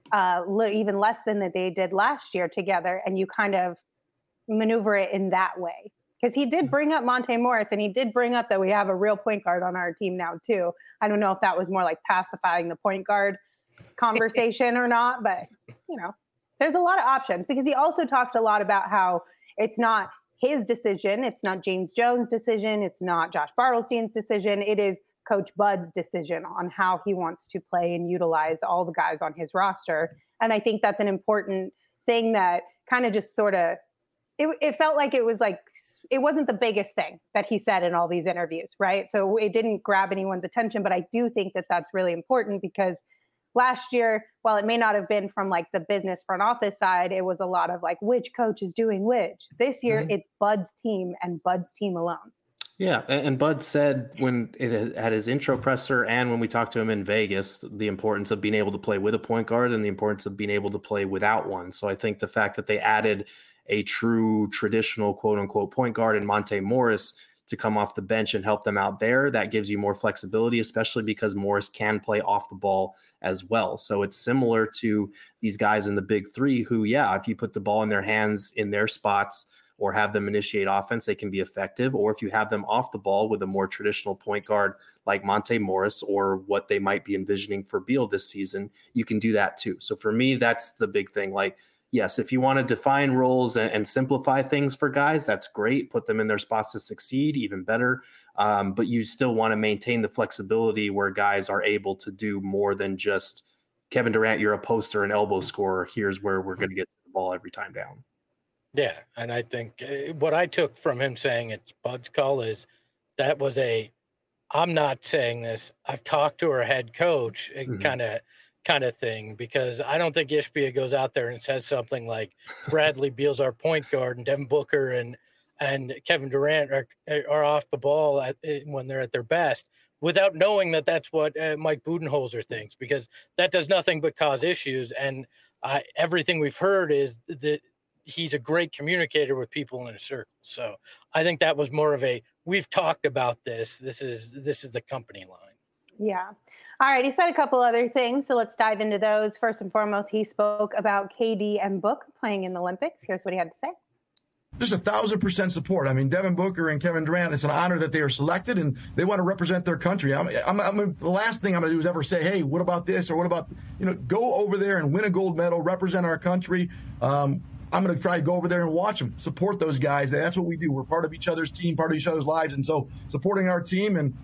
even less than that they did last year together, and you kind of maneuver it in that way. Because he did bring up Monte Morris, and he did bring up that we have a real point guard on our team now too. I don't know if that was more like pacifying the point guard conversation or not, but there's a lot of options, because he also talked a lot about how it's not his decision. It's not James Jones' decision. It's not Josh Bartelstein's decision. It is Coach Bud's decision on how he wants to play and utilize all the guys on his roster. And I think that's an important thing that kind of just sort of, it felt like it wasn't the biggest thing that he said in all these interviews, right? So it didn't grab anyone's attention, but I do think that that's really important, because last year, while it may not have been from like the business front office side, it was a lot of like, which coach is doing which. This year, it's Bud's team and Bud's team alone. Yeah, and Bud said at his intro presser and when we talked to him in Vegas, the importance of being able to play with a point guard and the importance of being able to play without one. So I think the fact that they added a true traditional quote unquote point guard in Monte Morris to come off the bench and help them out there, that gives you more flexibility, especially because Morris can play off the ball as well. So it's similar to these guys in the big three who, if you put the ball in their hands in their spots or have them initiate offense, they can be effective. Or if you have them off the ball with a more traditional point guard like Monte Morris, or what they might be envisioning for Beal this season, you can do that too. So for me, that's the big thing. Like, yes, if you want to define roles and simplify things for guys, that's great. Put them in their spots to succeed, even better. But you still want to maintain the flexibility where guys are able to do more than just, Kevin Durant, you're a poster and elbow scorer. Here's where we're going to get the ball every time down. Yeah, and I think what I took from him saying it's Bud's call is that was I'm not saying this, I've talked to our head coach kind of thing, because I don't think Ishbia goes out there and says something like Bradley Beal's our point guard and Devin Booker and Kevin Durant are off the ball when they're at their best, without knowing that that's what Mike Budenholzer thinks, because that does nothing but cause issues. And everything we've heard is that he's a great communicator with people in a circle. So I think that was more of we've talked about this. This is the company line. Yeah. All right. He said a couple other things, so let's dive into those. First and foremost, he spoke about KD and Book playing in the Olympics. Here's what he had to say. Just 1,000% support. I mean, Devin Booker and Kevin Durant, it's an honor that they are selected and they want to represent their country. I'm the last thing I'm going to do is ever say, hey, what about this? Or what about, go over there and win a gold medal, represent our country. I'm going to try to go over there and watch them, support those guys. That's what we do. We're part of each other's team, part of each other's lives. And so supporting our team, and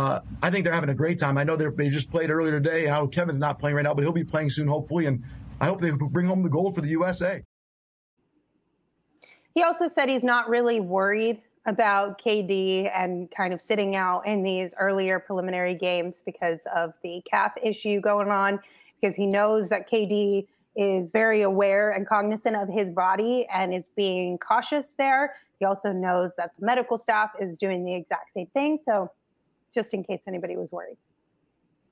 I think they're having a great time. I know they just played earlier today. And I know Kevin's not playing right now, but he'll be playing soon, hopefully. And I hope they bring home the gold for the USA. He also said he's not really worried about KD and kind of sitting out in these earlier preliminary games because of the calf issue going on, because he knows that KD is very aware and cognizant of his body and is being cautious there. He also knows that the medical staff is doing the exact same thing. So just in case anybody was worried.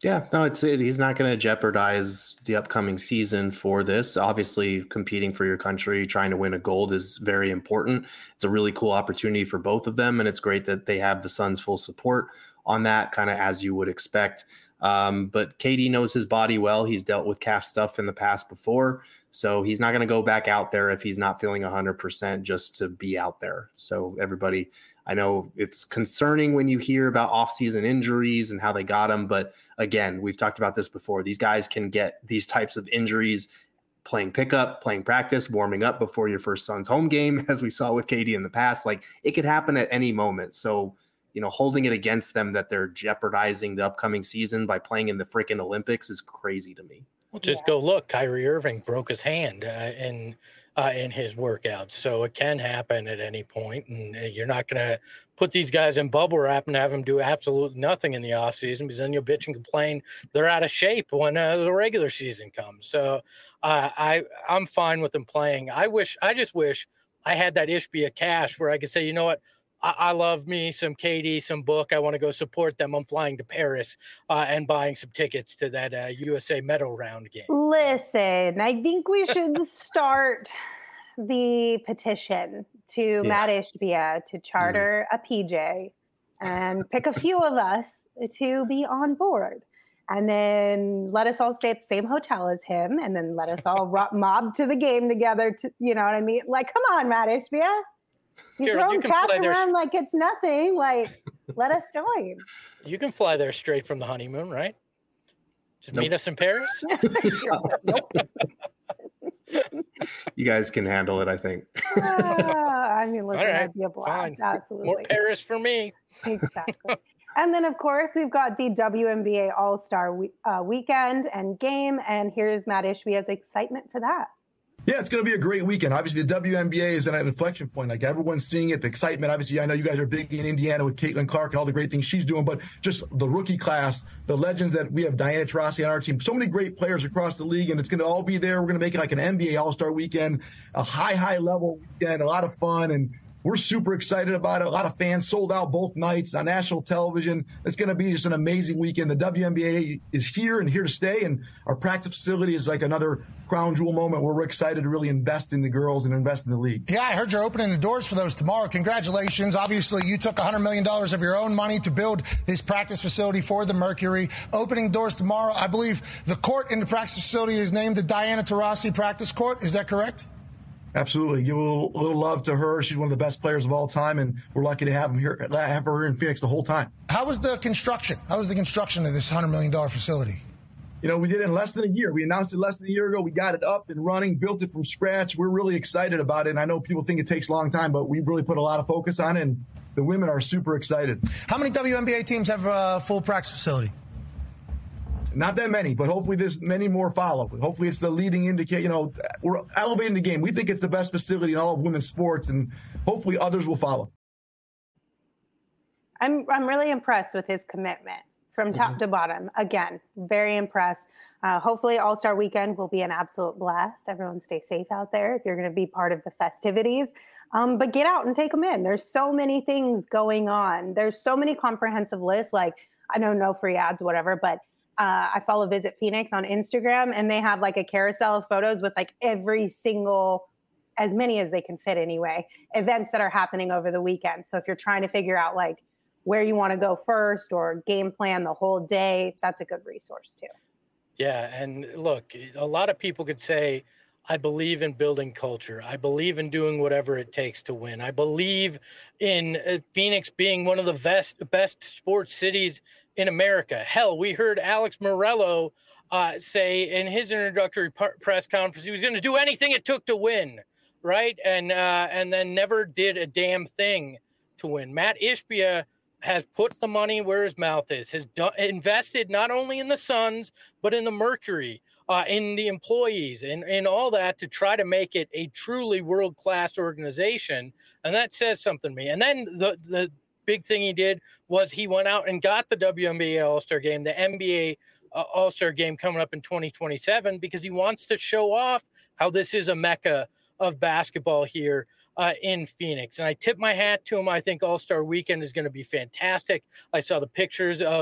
Yeah, no, he's not going to jeopardize the upcoming season for this. Obviously, competing for your country, trying to win a gold is very important. It's a really cool opportunity for both of them, and it's great that they have the Suns' full support on that, kind of as you would expect. But KD knows his body well. He's dealt with calf stuff in the past before, so he's not going to go back out there if he's not feeling 100% just to be out there. So everybody, I know it's concerning when you hear about off-season injuries and how they got them, but again, we've talked about this before. These guys can get these types of injuries playing pickup, playing practice, warming up before your first Suns home game, as we saw with KD in the past. Like, it could happen at any moment. So, holding it against them that they're jeopardizing the upcoming season by playing in the freaking Olympics is crazy to me. Well, just go look. Kyrie Irving broke his hand in his workouts, so it can happen at any point. And you're not going to put these guys in bubble wrap and have them do absolutely nothing in the off season, because then you'll bitch and complain they're out of shape when the regular season comes. So I'm fine with them playing. I just wish I had that Ishbia cash where I could say, you know what? I love me some KD, some Book. I want to go support them. I'm flying to Paris and buying some tickets to that USA medal round game. Listen, I think we should start the petition to Matt Ishbia to charter a PJ and pick a few of us to be on board. And then let us all stay at the same hotel as him, and then let us all mob to the game together. You know what I mean? Like, come on, Matt Ishbia. You're throwing cash around like it's nothing. Like, let us join. You can fly there straight from the honeymoon, right? Just meet us in Paris. Nope. You guys can handle it, I think. I mean, listen, that'd be a blast. Fine. Absolutely. More Paris for me. Exactly. And then, of course, we've got the WNBA All-Star weekend and game. And here's Matt Ishbia's excitement for that. Yeah, it's going to be a great weekend. Obviously, the WNBA is at an inflection point. Like, everyone's seeing it, the excitement. Obviously, I know you guys are big in Indiana with Caitlin Clark and all the great things she's doing, but just the rookie class, the legends that we have, Diana Taurasi on our team, so many great players across the league, and it's going to all be there. We're going to make it like an NBA All-Star weekend, a high level weekend, a lot of fun, and we're super excited about it. A lot of fans sold out both nights on national television. It's going to be just an amazing weekend. The WNBA is here and here to stay, and our practice facility is like another crown jewel moment where we're excited to really invest in the girls and invest in the league. Yeah, I heard you're opening the doors for those tomorrow. Congratulations. Obviously, you took $100 million of your own money to build this practice facility for the Mercury. Opening doors tomorrow. I believe the court in the practice facility is named the Diana Taurasi Practice Court. Is that correct? Absolutely. Give a little love to her. She's one of the best players of all time, and we're lucky to have her here in Phoenix the whole time. How was the construction? How was the construction of this $100 million facility? We did it in less than a year. We announced it less than a year ago. We got it up and running, built it from scratch. We're really excited about it. And I know people think it takes a long time, but we really put a lot of focus on it, and the women are super excited. How many WNBA teams have a full practice facility? Not that many, but hopefully there's many more follow. Hopefully it's the leading indicator. We're elevating the game. We think it's the best facility in all of women's sports, and hopefully others will follow. I'm really impressed with his commitment from top to bottom. Again, very impressed. Hopefully All-Star Weekend will be an absolute blast. Everyone stay safe out there if you're going to be part of the festivities. But get out and take them in. There's so many things going on. There's so many comprehensive lists. Like, I know no free ads, whatever, but I follow Visit Phoenix on Instagram, and they have like a carousel of photos with like every single, as many as they can fit anyway, events that are happening over the weekend. So if you're trying to figure out like where you want to go first or game plan the whole day, that's a good resource too. Yeah. And look, a lot of people could say, I believe in building culture. I believe in doing whatever it takes to win. I believe in Phoenix being one of the best sports cities in America. Hell, we heard Alex Morello say in his introductory press conference he was going to do anything it took to win, right? And then never did a damn thing to win. Matt Ishbia has put the money where his mouth is, has invested not only in the Suns, but in the Mercury, in the employees, and all that to try to make it a truly world-class organization. And that says something to me. And then the big thing he did was he went out and got the WNBA All-Star Game, the NBA All-Star Game coming up in 2027, because he wants to show off how this is a mecca of basketball here in Phoenix. And I tip my hat to him. I think All-Star Weekend is going to be fantastic. I saw the pictures of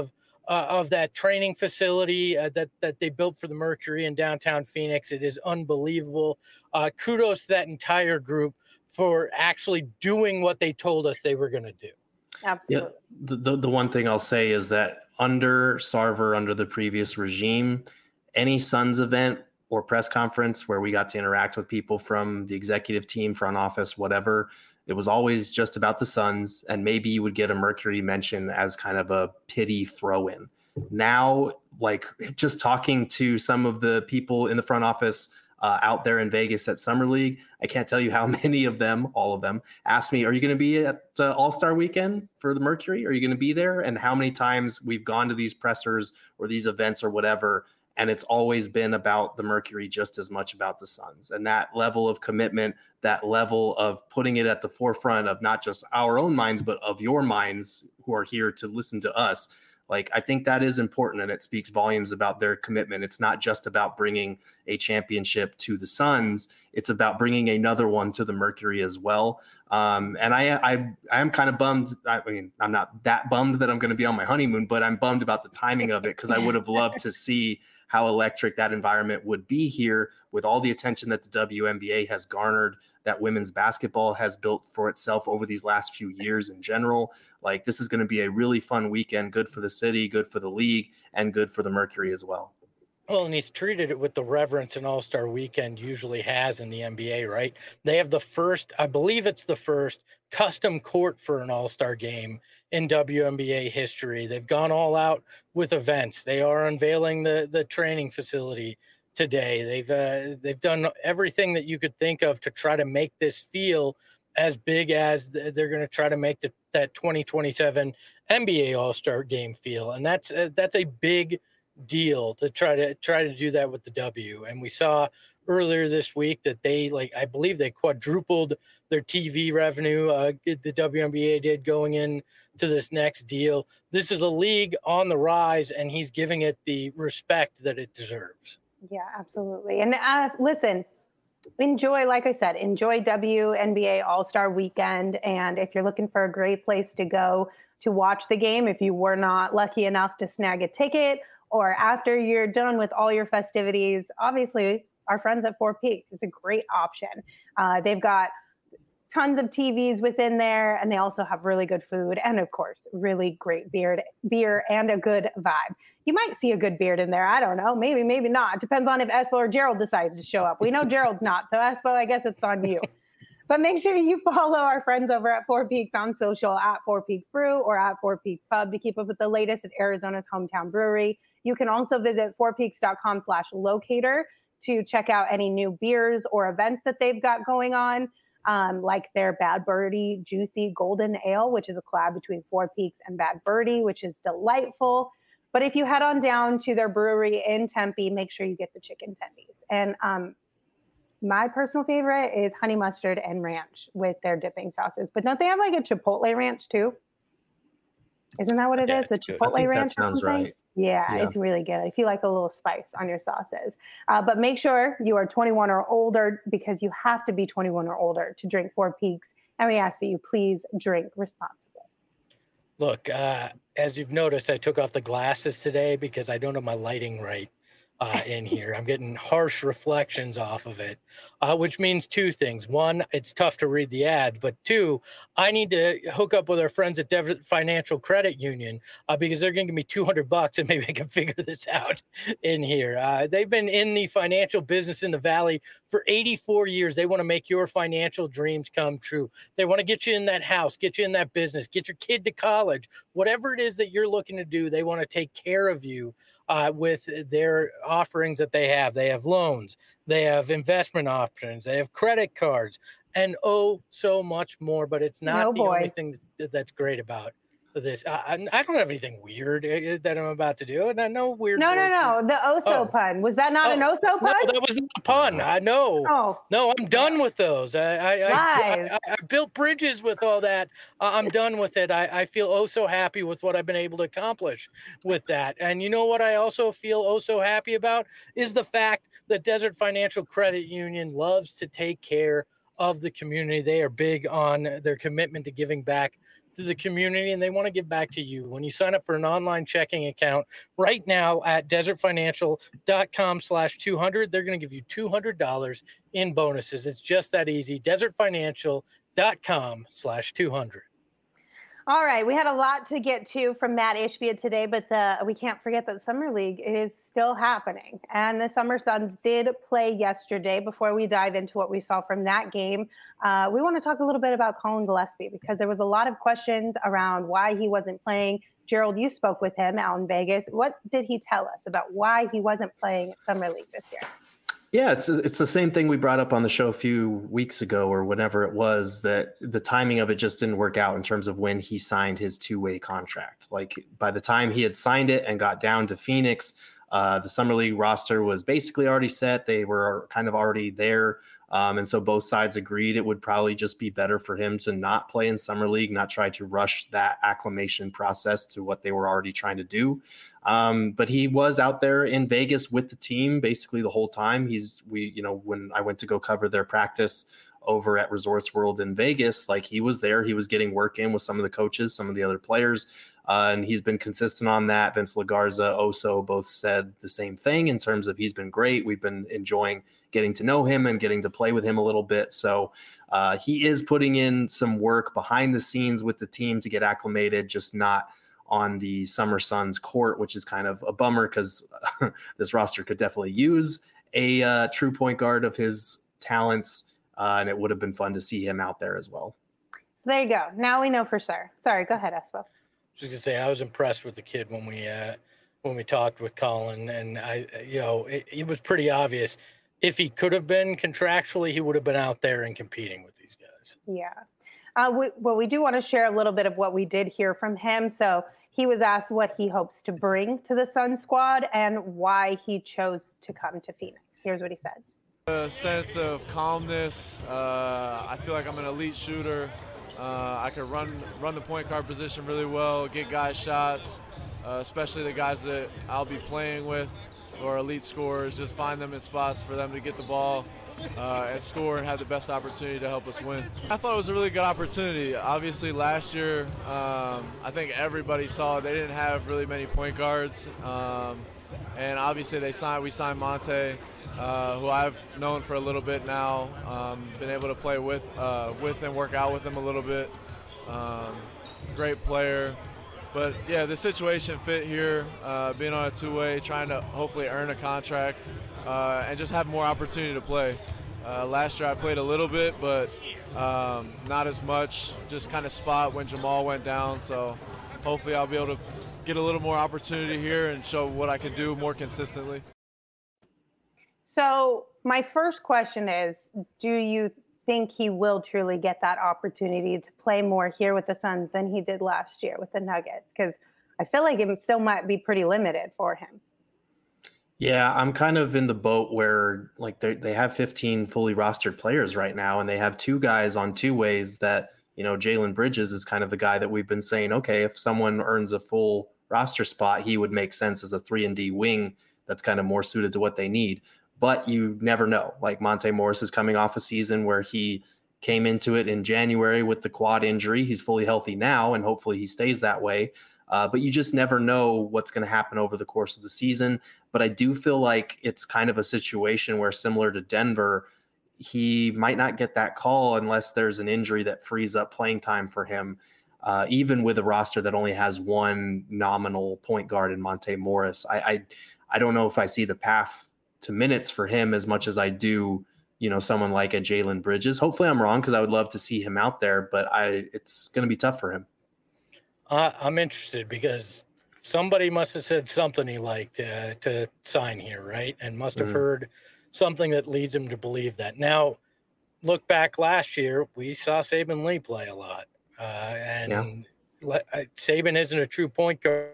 of that training facility that they built for the Mercury in downtown Phoenix. It is unbelievable. Kudos to that entire group for actually doing what they told us they were going to do. Absolutely. Yeah, the one thing I'll say is that under Sarver, under the previous regime, any Suns event or press conference where we got to interact with people from the executive team, front office, whatever, it was always just about the Suns, and maybe you would get a Mercury mention as kind of a pity throw-in. Now, like just talking to some of the people in the front office out there in Vegas at Summer League, I can't tell you how many of them, all of them, asked me, are you going to be at All-Star Weekend for the Mercury? Are you going to be there? And how many times we've gone to these pressers or these events or whatever, and it's always been about the Mercury just as much about the Suns. And that level of commitment, that level of putting it at the forefront of not just our own minds, but of your minds who are here to listen to us. Like, I think that is important, and it speaks volumes about their commitment. It's not just about bringing a championship to the Suns. It's about bringing another one to the Mercury as well. And I am kind of bummed. I mean, I'm not that bummed that I'm going to be on my honeymoon, but I'm bummed about the timing of it because I would have loved to see how electric that environment would be here with all the attention that the WNBA has garnered, that women's basketball has built for itself over these last few years in general. Like, this is going to be a really fun weekend, good for the city, good for the league, and good for the Mercury as well. Well, and he's treated it with the reverence an All-Star Weekend usually has in the NBA, right? They have the first, I believe it's the first custom court for an All-Star game in WNBA history. They've gone all out with events. They are unveiling the training facility today. They've done everything that you could think of to try to make this feel as big as they're going to try to make that 2027 NBA All-Star game feel. And that's a big deal to try to do that with the W. And we saw earlier this week that I believe they quadrupled their TV revenue. The WNBA did going in to this next deal. This is a league on the rise, and he's giving it the respect that it deserves. Yeah, absolutely. And listen, enjoy WNBA All-Star Weekend. And if you're looking for a great place to go to watch the game, if you were not lucky enough to snag a ticket, or after you're done with all your festivities, obviously our friends at Four Peaks is a great option. They've got tons of TVs within there, and they also have really good food and, of course, really great beer and a good vibe. You might see a good beard in there. I don't know. Maybe not. Depends on if Espo or Gerald decides to show up. We know Gerald's not, so Espo, I guess it's on you. But make sure you follow our friends over at Four Peaks on social at Four Peaks Brew or at Four Peaks Pub to keep up with the latest at Arizona's hometown brewery. You can also visit fourpeaks.com/locator to check out any new beers or events that they've got going on, like their Bad Birdie Juicy Golden Ale, which is a collab between Four Peaks and Bad Birdie, which is delightful. But if you head on down to their brewery in Tempe, make sure you get the chicken tendies. And my personal favorite is honey mustard and ranch with their dipping sauces. But don't they have like a Chipotle ranch too? Isn't that what it is? The Chipotle ranch? That sounds right. Yeah, it's really good. If you like a little spice on your sauces. But make sure you are 21 or older, because you have to be 21 or older to drink Four Peaks. And we ask that you please drink responsibly. Look, as you've noticed, I took off the glasses today because I don't have my lighting right in here. I'm getting harsh reflections off of it, which means two things. One, it's tough to read the ad, but two, I need to hook up with our friends at Desert Financial Credit Union because they're going to give me $200 and maybe I can figure this out in here. They've been in the financial business in the Valley for 84 years. They want to make your financial dreams come true. They want to get you in that house, get you in that business, get your kid to college, whatever it is that you're looking to do. They want to take care of you with their offerings that they have. They have loans, they have investment options, they have credit cards, and so much more. But it's not only thing that's great about this. I don't have anything weird that I'm about to do. And no weird. No. The Oso pun. Was that not an Oso pun? No, that was not a pun. No, I'm done with those. I built bridges with all that. I'm done with it. I feel so happy with what I've been able to accomplish with that. And you know what I also feel so happy about is the fact that Desert Financial Credit Union loves to take care of the community. They are big on their commitment to giving back to the community, and they want to give back to you. When you sign up for an online checking account right now at desertfinancial.com/200, they're going to give you $200 in bonuses. It's just that easy. desertfinancial.com/200. All right, we had a lot to get to from Matt Ishbia today, but we can't forget that Summer League is still happening. And the Summer Suns did play yesterday. Before we dive into what we saw from that game, we want to talk a little bit about Colin Gillespie, because there was a lot of questions around why he wasn't playing. Gerald, you spoke with him out in Vegas. What did he tell us about why he wasn't playing at Summer League this year? Yeah, it's the same thing we brought up on the show a few weeks ago or whenever it was, that the timing of it just didn't work out in terms of when he signed his two-way contract. Like, by the time he had signed it and got down to Phoenix, the Summer League roster was basically already set. They were kind of already there. And so both sides agreed it would probably just be better for him to not play in Summer League, not try to rush that acclimation process to what they were already trying to do. But he was out there in Vegas with the team basically the whole time. When I went to go cover their practice over at Resorts World in Vegas, like, he was there. He was getting work in with some of the coaches, some of the other players. And he's been consistent on that. Vince LaGarza, Oso both said the same thing in terms of he's been great. We've been enjoying getting to know him and getting to play with him a little bit. So he is putting in some work behind the scenes with the team to get acclimated, just not on the Summer Suns court, which is kind of a bummer because this roster could definitely use a true point guard of his talents. And it would have been fun to see him out there as well. So there you go. Now we know for sure. Sorry, go ahead, Espo. Just gonna say, I was impressed with the kid when we talked with Colin, and it was pretty obvious. If he could have been contractually, he would have been out there and competing with these guys. Yeah. We do want to share a little bit of what we did hear from him. So he was asked what he hopes to bring to the Sun squad and why he chose to come to Phoenix. Here's what he said. A sense of calmness. I feel like I'm an elite shooter. I can run the point guard position really well, get guys shots, especially the guys that I'll be playing with or elite scorers. Just find them in spots for them to get the ball and score and have the best opportunity to help us win. I thought it was a really good opportunity. Obviously, last year, I think everybody saw they didn't have really many point guards, and obviously we signed Monte, who I've known for a little bit now, been able to play with and work out with him a little bit. Great player. But yeah, the situation fit here, being on a two-way, trying to hopefully earn a contract, and just have more opportunity to play. Last year I played a little bit, but not as much, just kind of spot when Jamal went down. So hopefully I'll be able to get a little more opportunity here and show what I can do more consistently. So my first question is, do you think he will truly get that opportunity to play more here with the Suns than he did last year with the Nuggets? Because I feel like it still might be pretty limited for him. Yeah, I'm kind of in the boat where, like, they have 15 fully rostered players right now, and they have two guys on two ways that, Jalen Bridges is kind of the guy that we've been saying, okay, if someone earns a full roster spot, he would make sense as a 3-and-D wing that's kind of more suited to what they need. But you never know. Like, Monte Morris is coming off a season where he came into it in January with the quad injury. He's fully healthy now, and hopefully he stays that way. But you just never know what's going to happen over the course of the season. But I do feel like it's kind of a situation where, similar to Denver, he might not get that call unless there's an injury that frees up playing time for him, even with a roster that only has one nominal point guard in Monte Morris. I don't know if I see the path to minutes for him as much as I do, someone like a Jalen Bridges. Hopefully I'm wrong, because I would love to see him out there, but it's going to be tough for him. I'm interested because somebody must have said something he liked to sign here, right? And must have heard something that leads him to believe that. Now, look back last year, we saw Saben Lee play a lot. Saben isn't a true point guard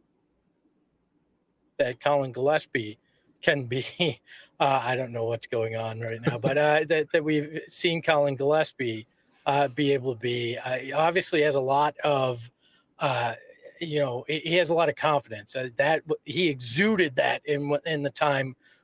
that Colin Gillespie can be. I don't know what's going on right now, but that we've seen Colin Gillespie be able to be. Obviously has a lot of he has a lot of confidence. That he exuded that in the time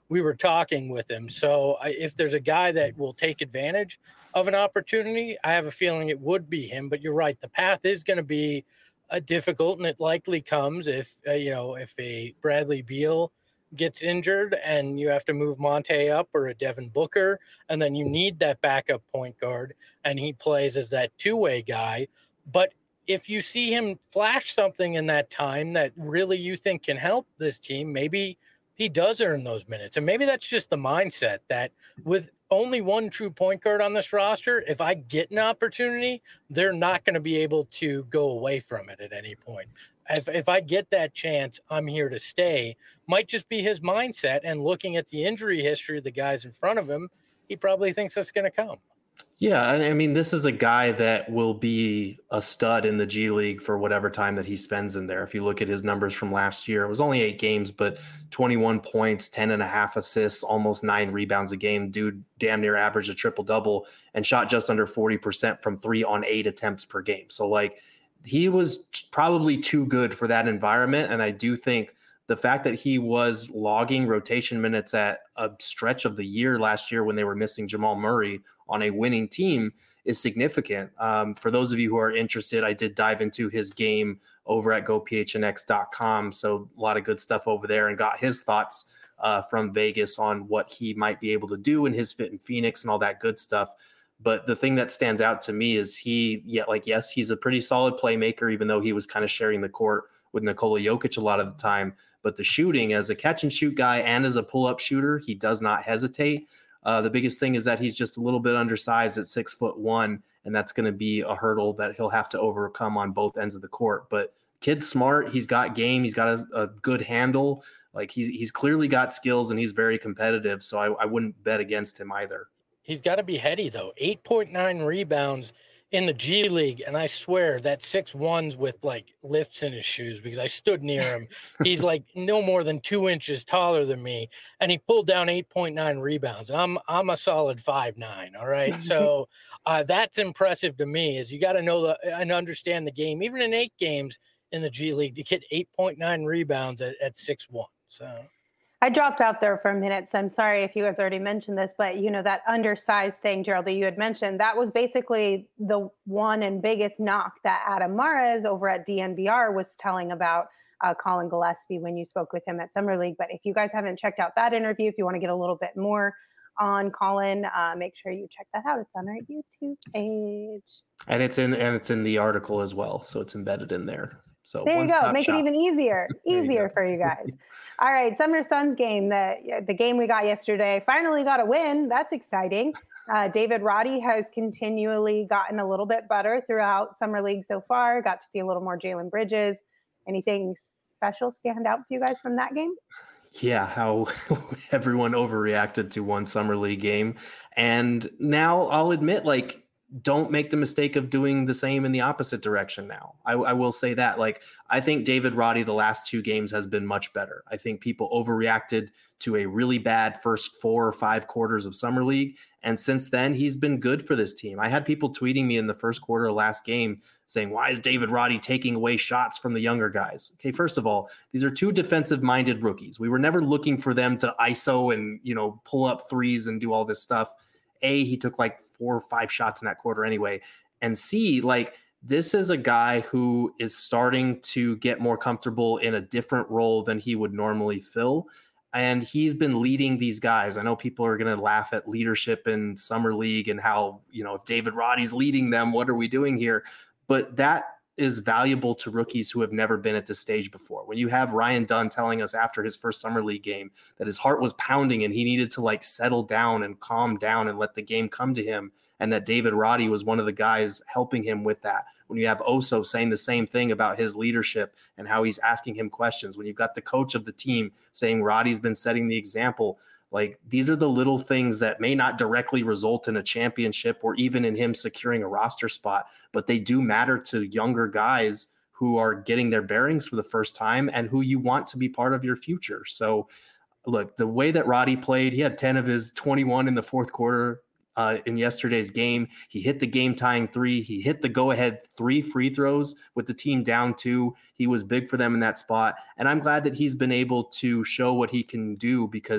we were talking with him. So if there's a guy that will take advantage of an opportunity, I have a feeling it would be him. But you're right, the path is going to be difficult, and it likely comes if if a Bradley Beal gets injured and you have to move Monte up, or a Devin Booker, and then you need that backup point guard, and he plays as that two-way guy. But if you see him flash something in that time that really you think can help this team, maybe he does earn those minutes. And maybe that's just the mindset that with only one true point guard on this roster, if I get an opportunity, they're not going to be able to go away from it at any point. If I get that chance, I'm here to stay. Might just be his mindset. And looking at the injury history of the guys in front of him, he probably thinks that's going to come. Yeah, and I mean, this is a guy that will be a stud in the G League for whatever time that he spends in there. If you look at his numbers from last year, it was only 8 games, but 21 points, 10.5 assists, almost 9 rebounds a game. Dude damn near averaged a triple-double and shot just under 40% from 3 on 8 attempts per game. So, like, he was probably too good for that environment, and I do think the fact that he was logging rotation minutes at a stretch of the year last year when they were missing Jamal Murray on a winning team is significant. For those of you who are interested, I did dive into his game over at gophnx.com. So a lot of good stuff over there, and got his thoughts from Vegas on what he might be able to do in his fit in Phoenix and all that good stuff. But the thing that stands out to me is yes, he's a pretty solid playmaker, even though he was kind of sharing the court with Nikola Jokic a lot of the time. But the shooting, as a catch and shoot guy and as a pull-up shooter, he does not hesitate. The biggest thing is that he's just a little bit undersized at 6'1", and that's going to be a hurdle that he'll have to overcome on both ends of the court. But kid's smart. He's got game. He's got a good handle. Like he's clearly got skills, and he's very competitive. So I wouldn't bet against him either. He's got to be heady, though. 8.9 rebounds in the G League, and I swear that 6'1's with like lifts in his shoes, because I stood near him. He's like no more than 2 inches taller than me, and he pulled down 8.9 rebounds. I'm a solid 5'9". All right, so that's impressive to me. Is you got to know and understand the game, even in 8 games in the G League, to get 8.9 rebounds at 6'1". So. I dropped out there for a minute, so I'm sorry if you guys already mentioned this, but that undersized thing, Gerald, that you had mentioned, that was basically the one and biggest knock that Adam Mares over at DNVR was telling about Colin Gillespie when you spoke with him at Summer League. But if you guys haven't checked out that interview, if you want to get a little bit more on Colin, make sure you check that out. It's on our YouTube page. And it's in the article as well, so it's embedded in there. So there you go. Make it even easier for you guys. All right, Summer Suns game, the game we got yesterday, finally got a win. That's exciting. David Roddy has continually gotten a little bit better throughout Summer League so far. Got to see a little more Jalen Bridges. Anything special stand out to you guys from that game? Yeah, how everyone overreacted to one Summer League game. And now I'll admit, don't make the mistake of doing the same in the opposite direction now. I will say that. I think David Roddy the last 2 games has been much better. I think people overreacted to a really bad first 4 or 5 quarters of Summer League. And since then, he's been good for this team. I had people tweeting me in the first quarter of last game saying, why is David Roddy taking away shots from the younger guys? Okay, first of all, these are 2 defensive-minded rookies. We were never looking for them to ISO and, pull up threes and do all this stuff. A, he took 4 or 5 shots in that quarter anyway. And C, this is a guy who is starting to get more comfortable in a different role than he would normally fill. And he's been leading these guys. I know people are going to laugh at leadership in Summer League and how, if David Roddy's leading them, what are we doing here? But that is valuable to rookies who have never been at this stage before. When you have Ryan Dunn telling us after his first Summer League game that his heart was pounding and he needed to settle down and calm down and let the game come to him, and that David Roddy was one of the guys helping him with that. When you have Oso saying the same thing about his leadership and how he's asking him questions, when you've got the coach of the team saying Roddy's been setting the example, these are the little things that may not directly result in a championship or even in him securing a roster spot, but they do matter to younger guys who are getting their bearings for the first time and who you want to be part of your future. So look, the way that Roddy played, he had 10 of his 21 in the fourth quarter in yesterday's game. He hit the game tying 3. He hit the go-ahead 3 free throws with the team down 2. He was big for them in that spot. And I'm glad that he's been able to show what he can do, because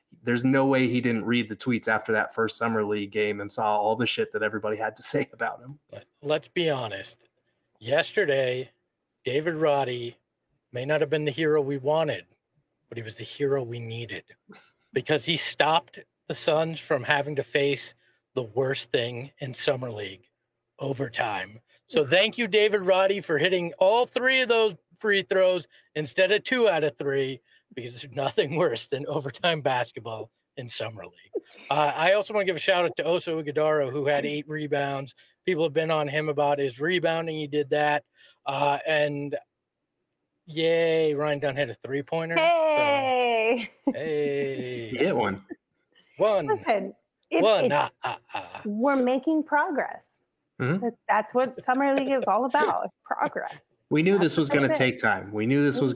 there's no way he didn't read the tweets after that first summer league game and saw all the shit that everybody had to say about him. Let's be honest. Yesterday, David Roddy may not have been the hero we wanted, but he was the hero we needed because he stopped the Suns from having to face the worst thing in summer league, overtime. So thank you, David Roddy, for hitting all 3 of those free throws instead of 2 out of 3, because there's nothing worse than overtime basketball in summer league. I also want to give a shout out to Oso Ighodaro, who had 8 rebounds. People have been on him about his rebounding. He did that. And yay, Ryan Dunn hit a 3-pointer. Hey. So, hey. He hit one. Listen, we're making progress. Mm-hmm. That's what summer league is all about. Progress. We knew this was going to take time. We're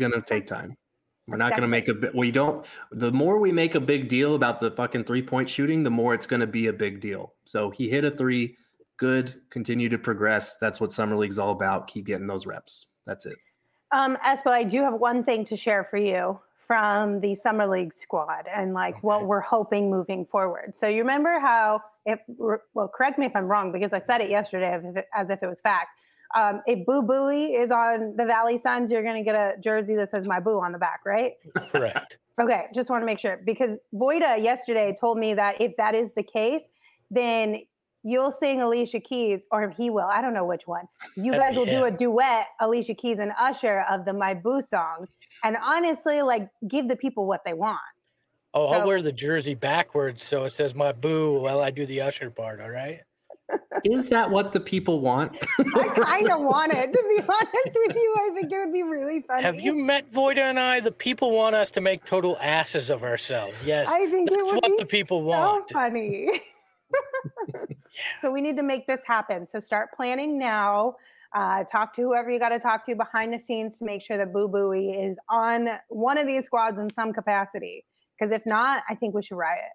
not going to make the more we make a big deal about the fucking 3-point shooting, the more it's going to be a big deal. So he hit a 3, good, continue to progress. That's what summer league's all about. Keep getting those reps. That's it. Espo, I do have one thing to share for you from the summer league squad and what we're hoping moving forward. So you remember how correct me if I'm wrong, because I said it yesterday as if it was fact. If Boo Buie is on the Valley Suns, you're going to get a jersey that says "My Boo" on the back, right? Correct. Okay, just want to make sure, because Voida yesterday told me that if that is the case, then you'll sing Alicia Keys, or he will. I don't know which one. You guys will do a duet, Alicia Keys and Usher, of the "My Boo" song, and honestly, give the people what they want. Oh, I'll wear the jersey backwards so it says "My Boo" while I do the Usher part. All right. Is that what the people want? I kind of want it, to be honest with you. I think it would be really funny. Have you met Voida and I? The people want us to make total asses of ourselves. Yes, I think that's it would what be the people so want. Funny. So we need to make this happen. So start planning now. Talk to whoever you got to talk to behind the scenes to make sure that Boo Buie is on one of these squads in some capacity. Because if not, I think we should riot.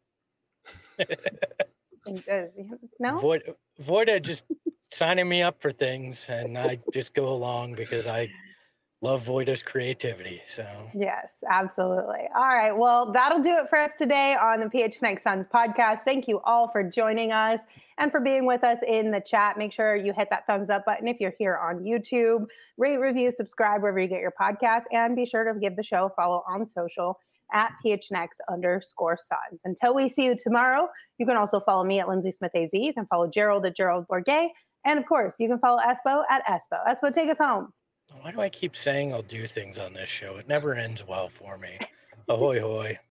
No? Voida just signing me up for things, and I just go along because I love Voida's creativity. So yes, absolutely. All right. Well, that'll do it for us today on the PHNX Suns podcast. Thank you all for joining us and for being with us in the chat. Make sure you hit that thumbs up button if you're here on YouTube. Rate, review, subscribe wherever you get your podcast, and be sure to give the show a follow on social at PHNX_Suns. Until we see you tomorrow, you can also follow me at Lindsay Smith AZ. You can follow Gerald at Gerald Bourget. And of course, you can follow Espo at Espo. Espo, take us home. Why do I keep saying I'll do things on this show? It never ends well for me. Ahoy, hoy.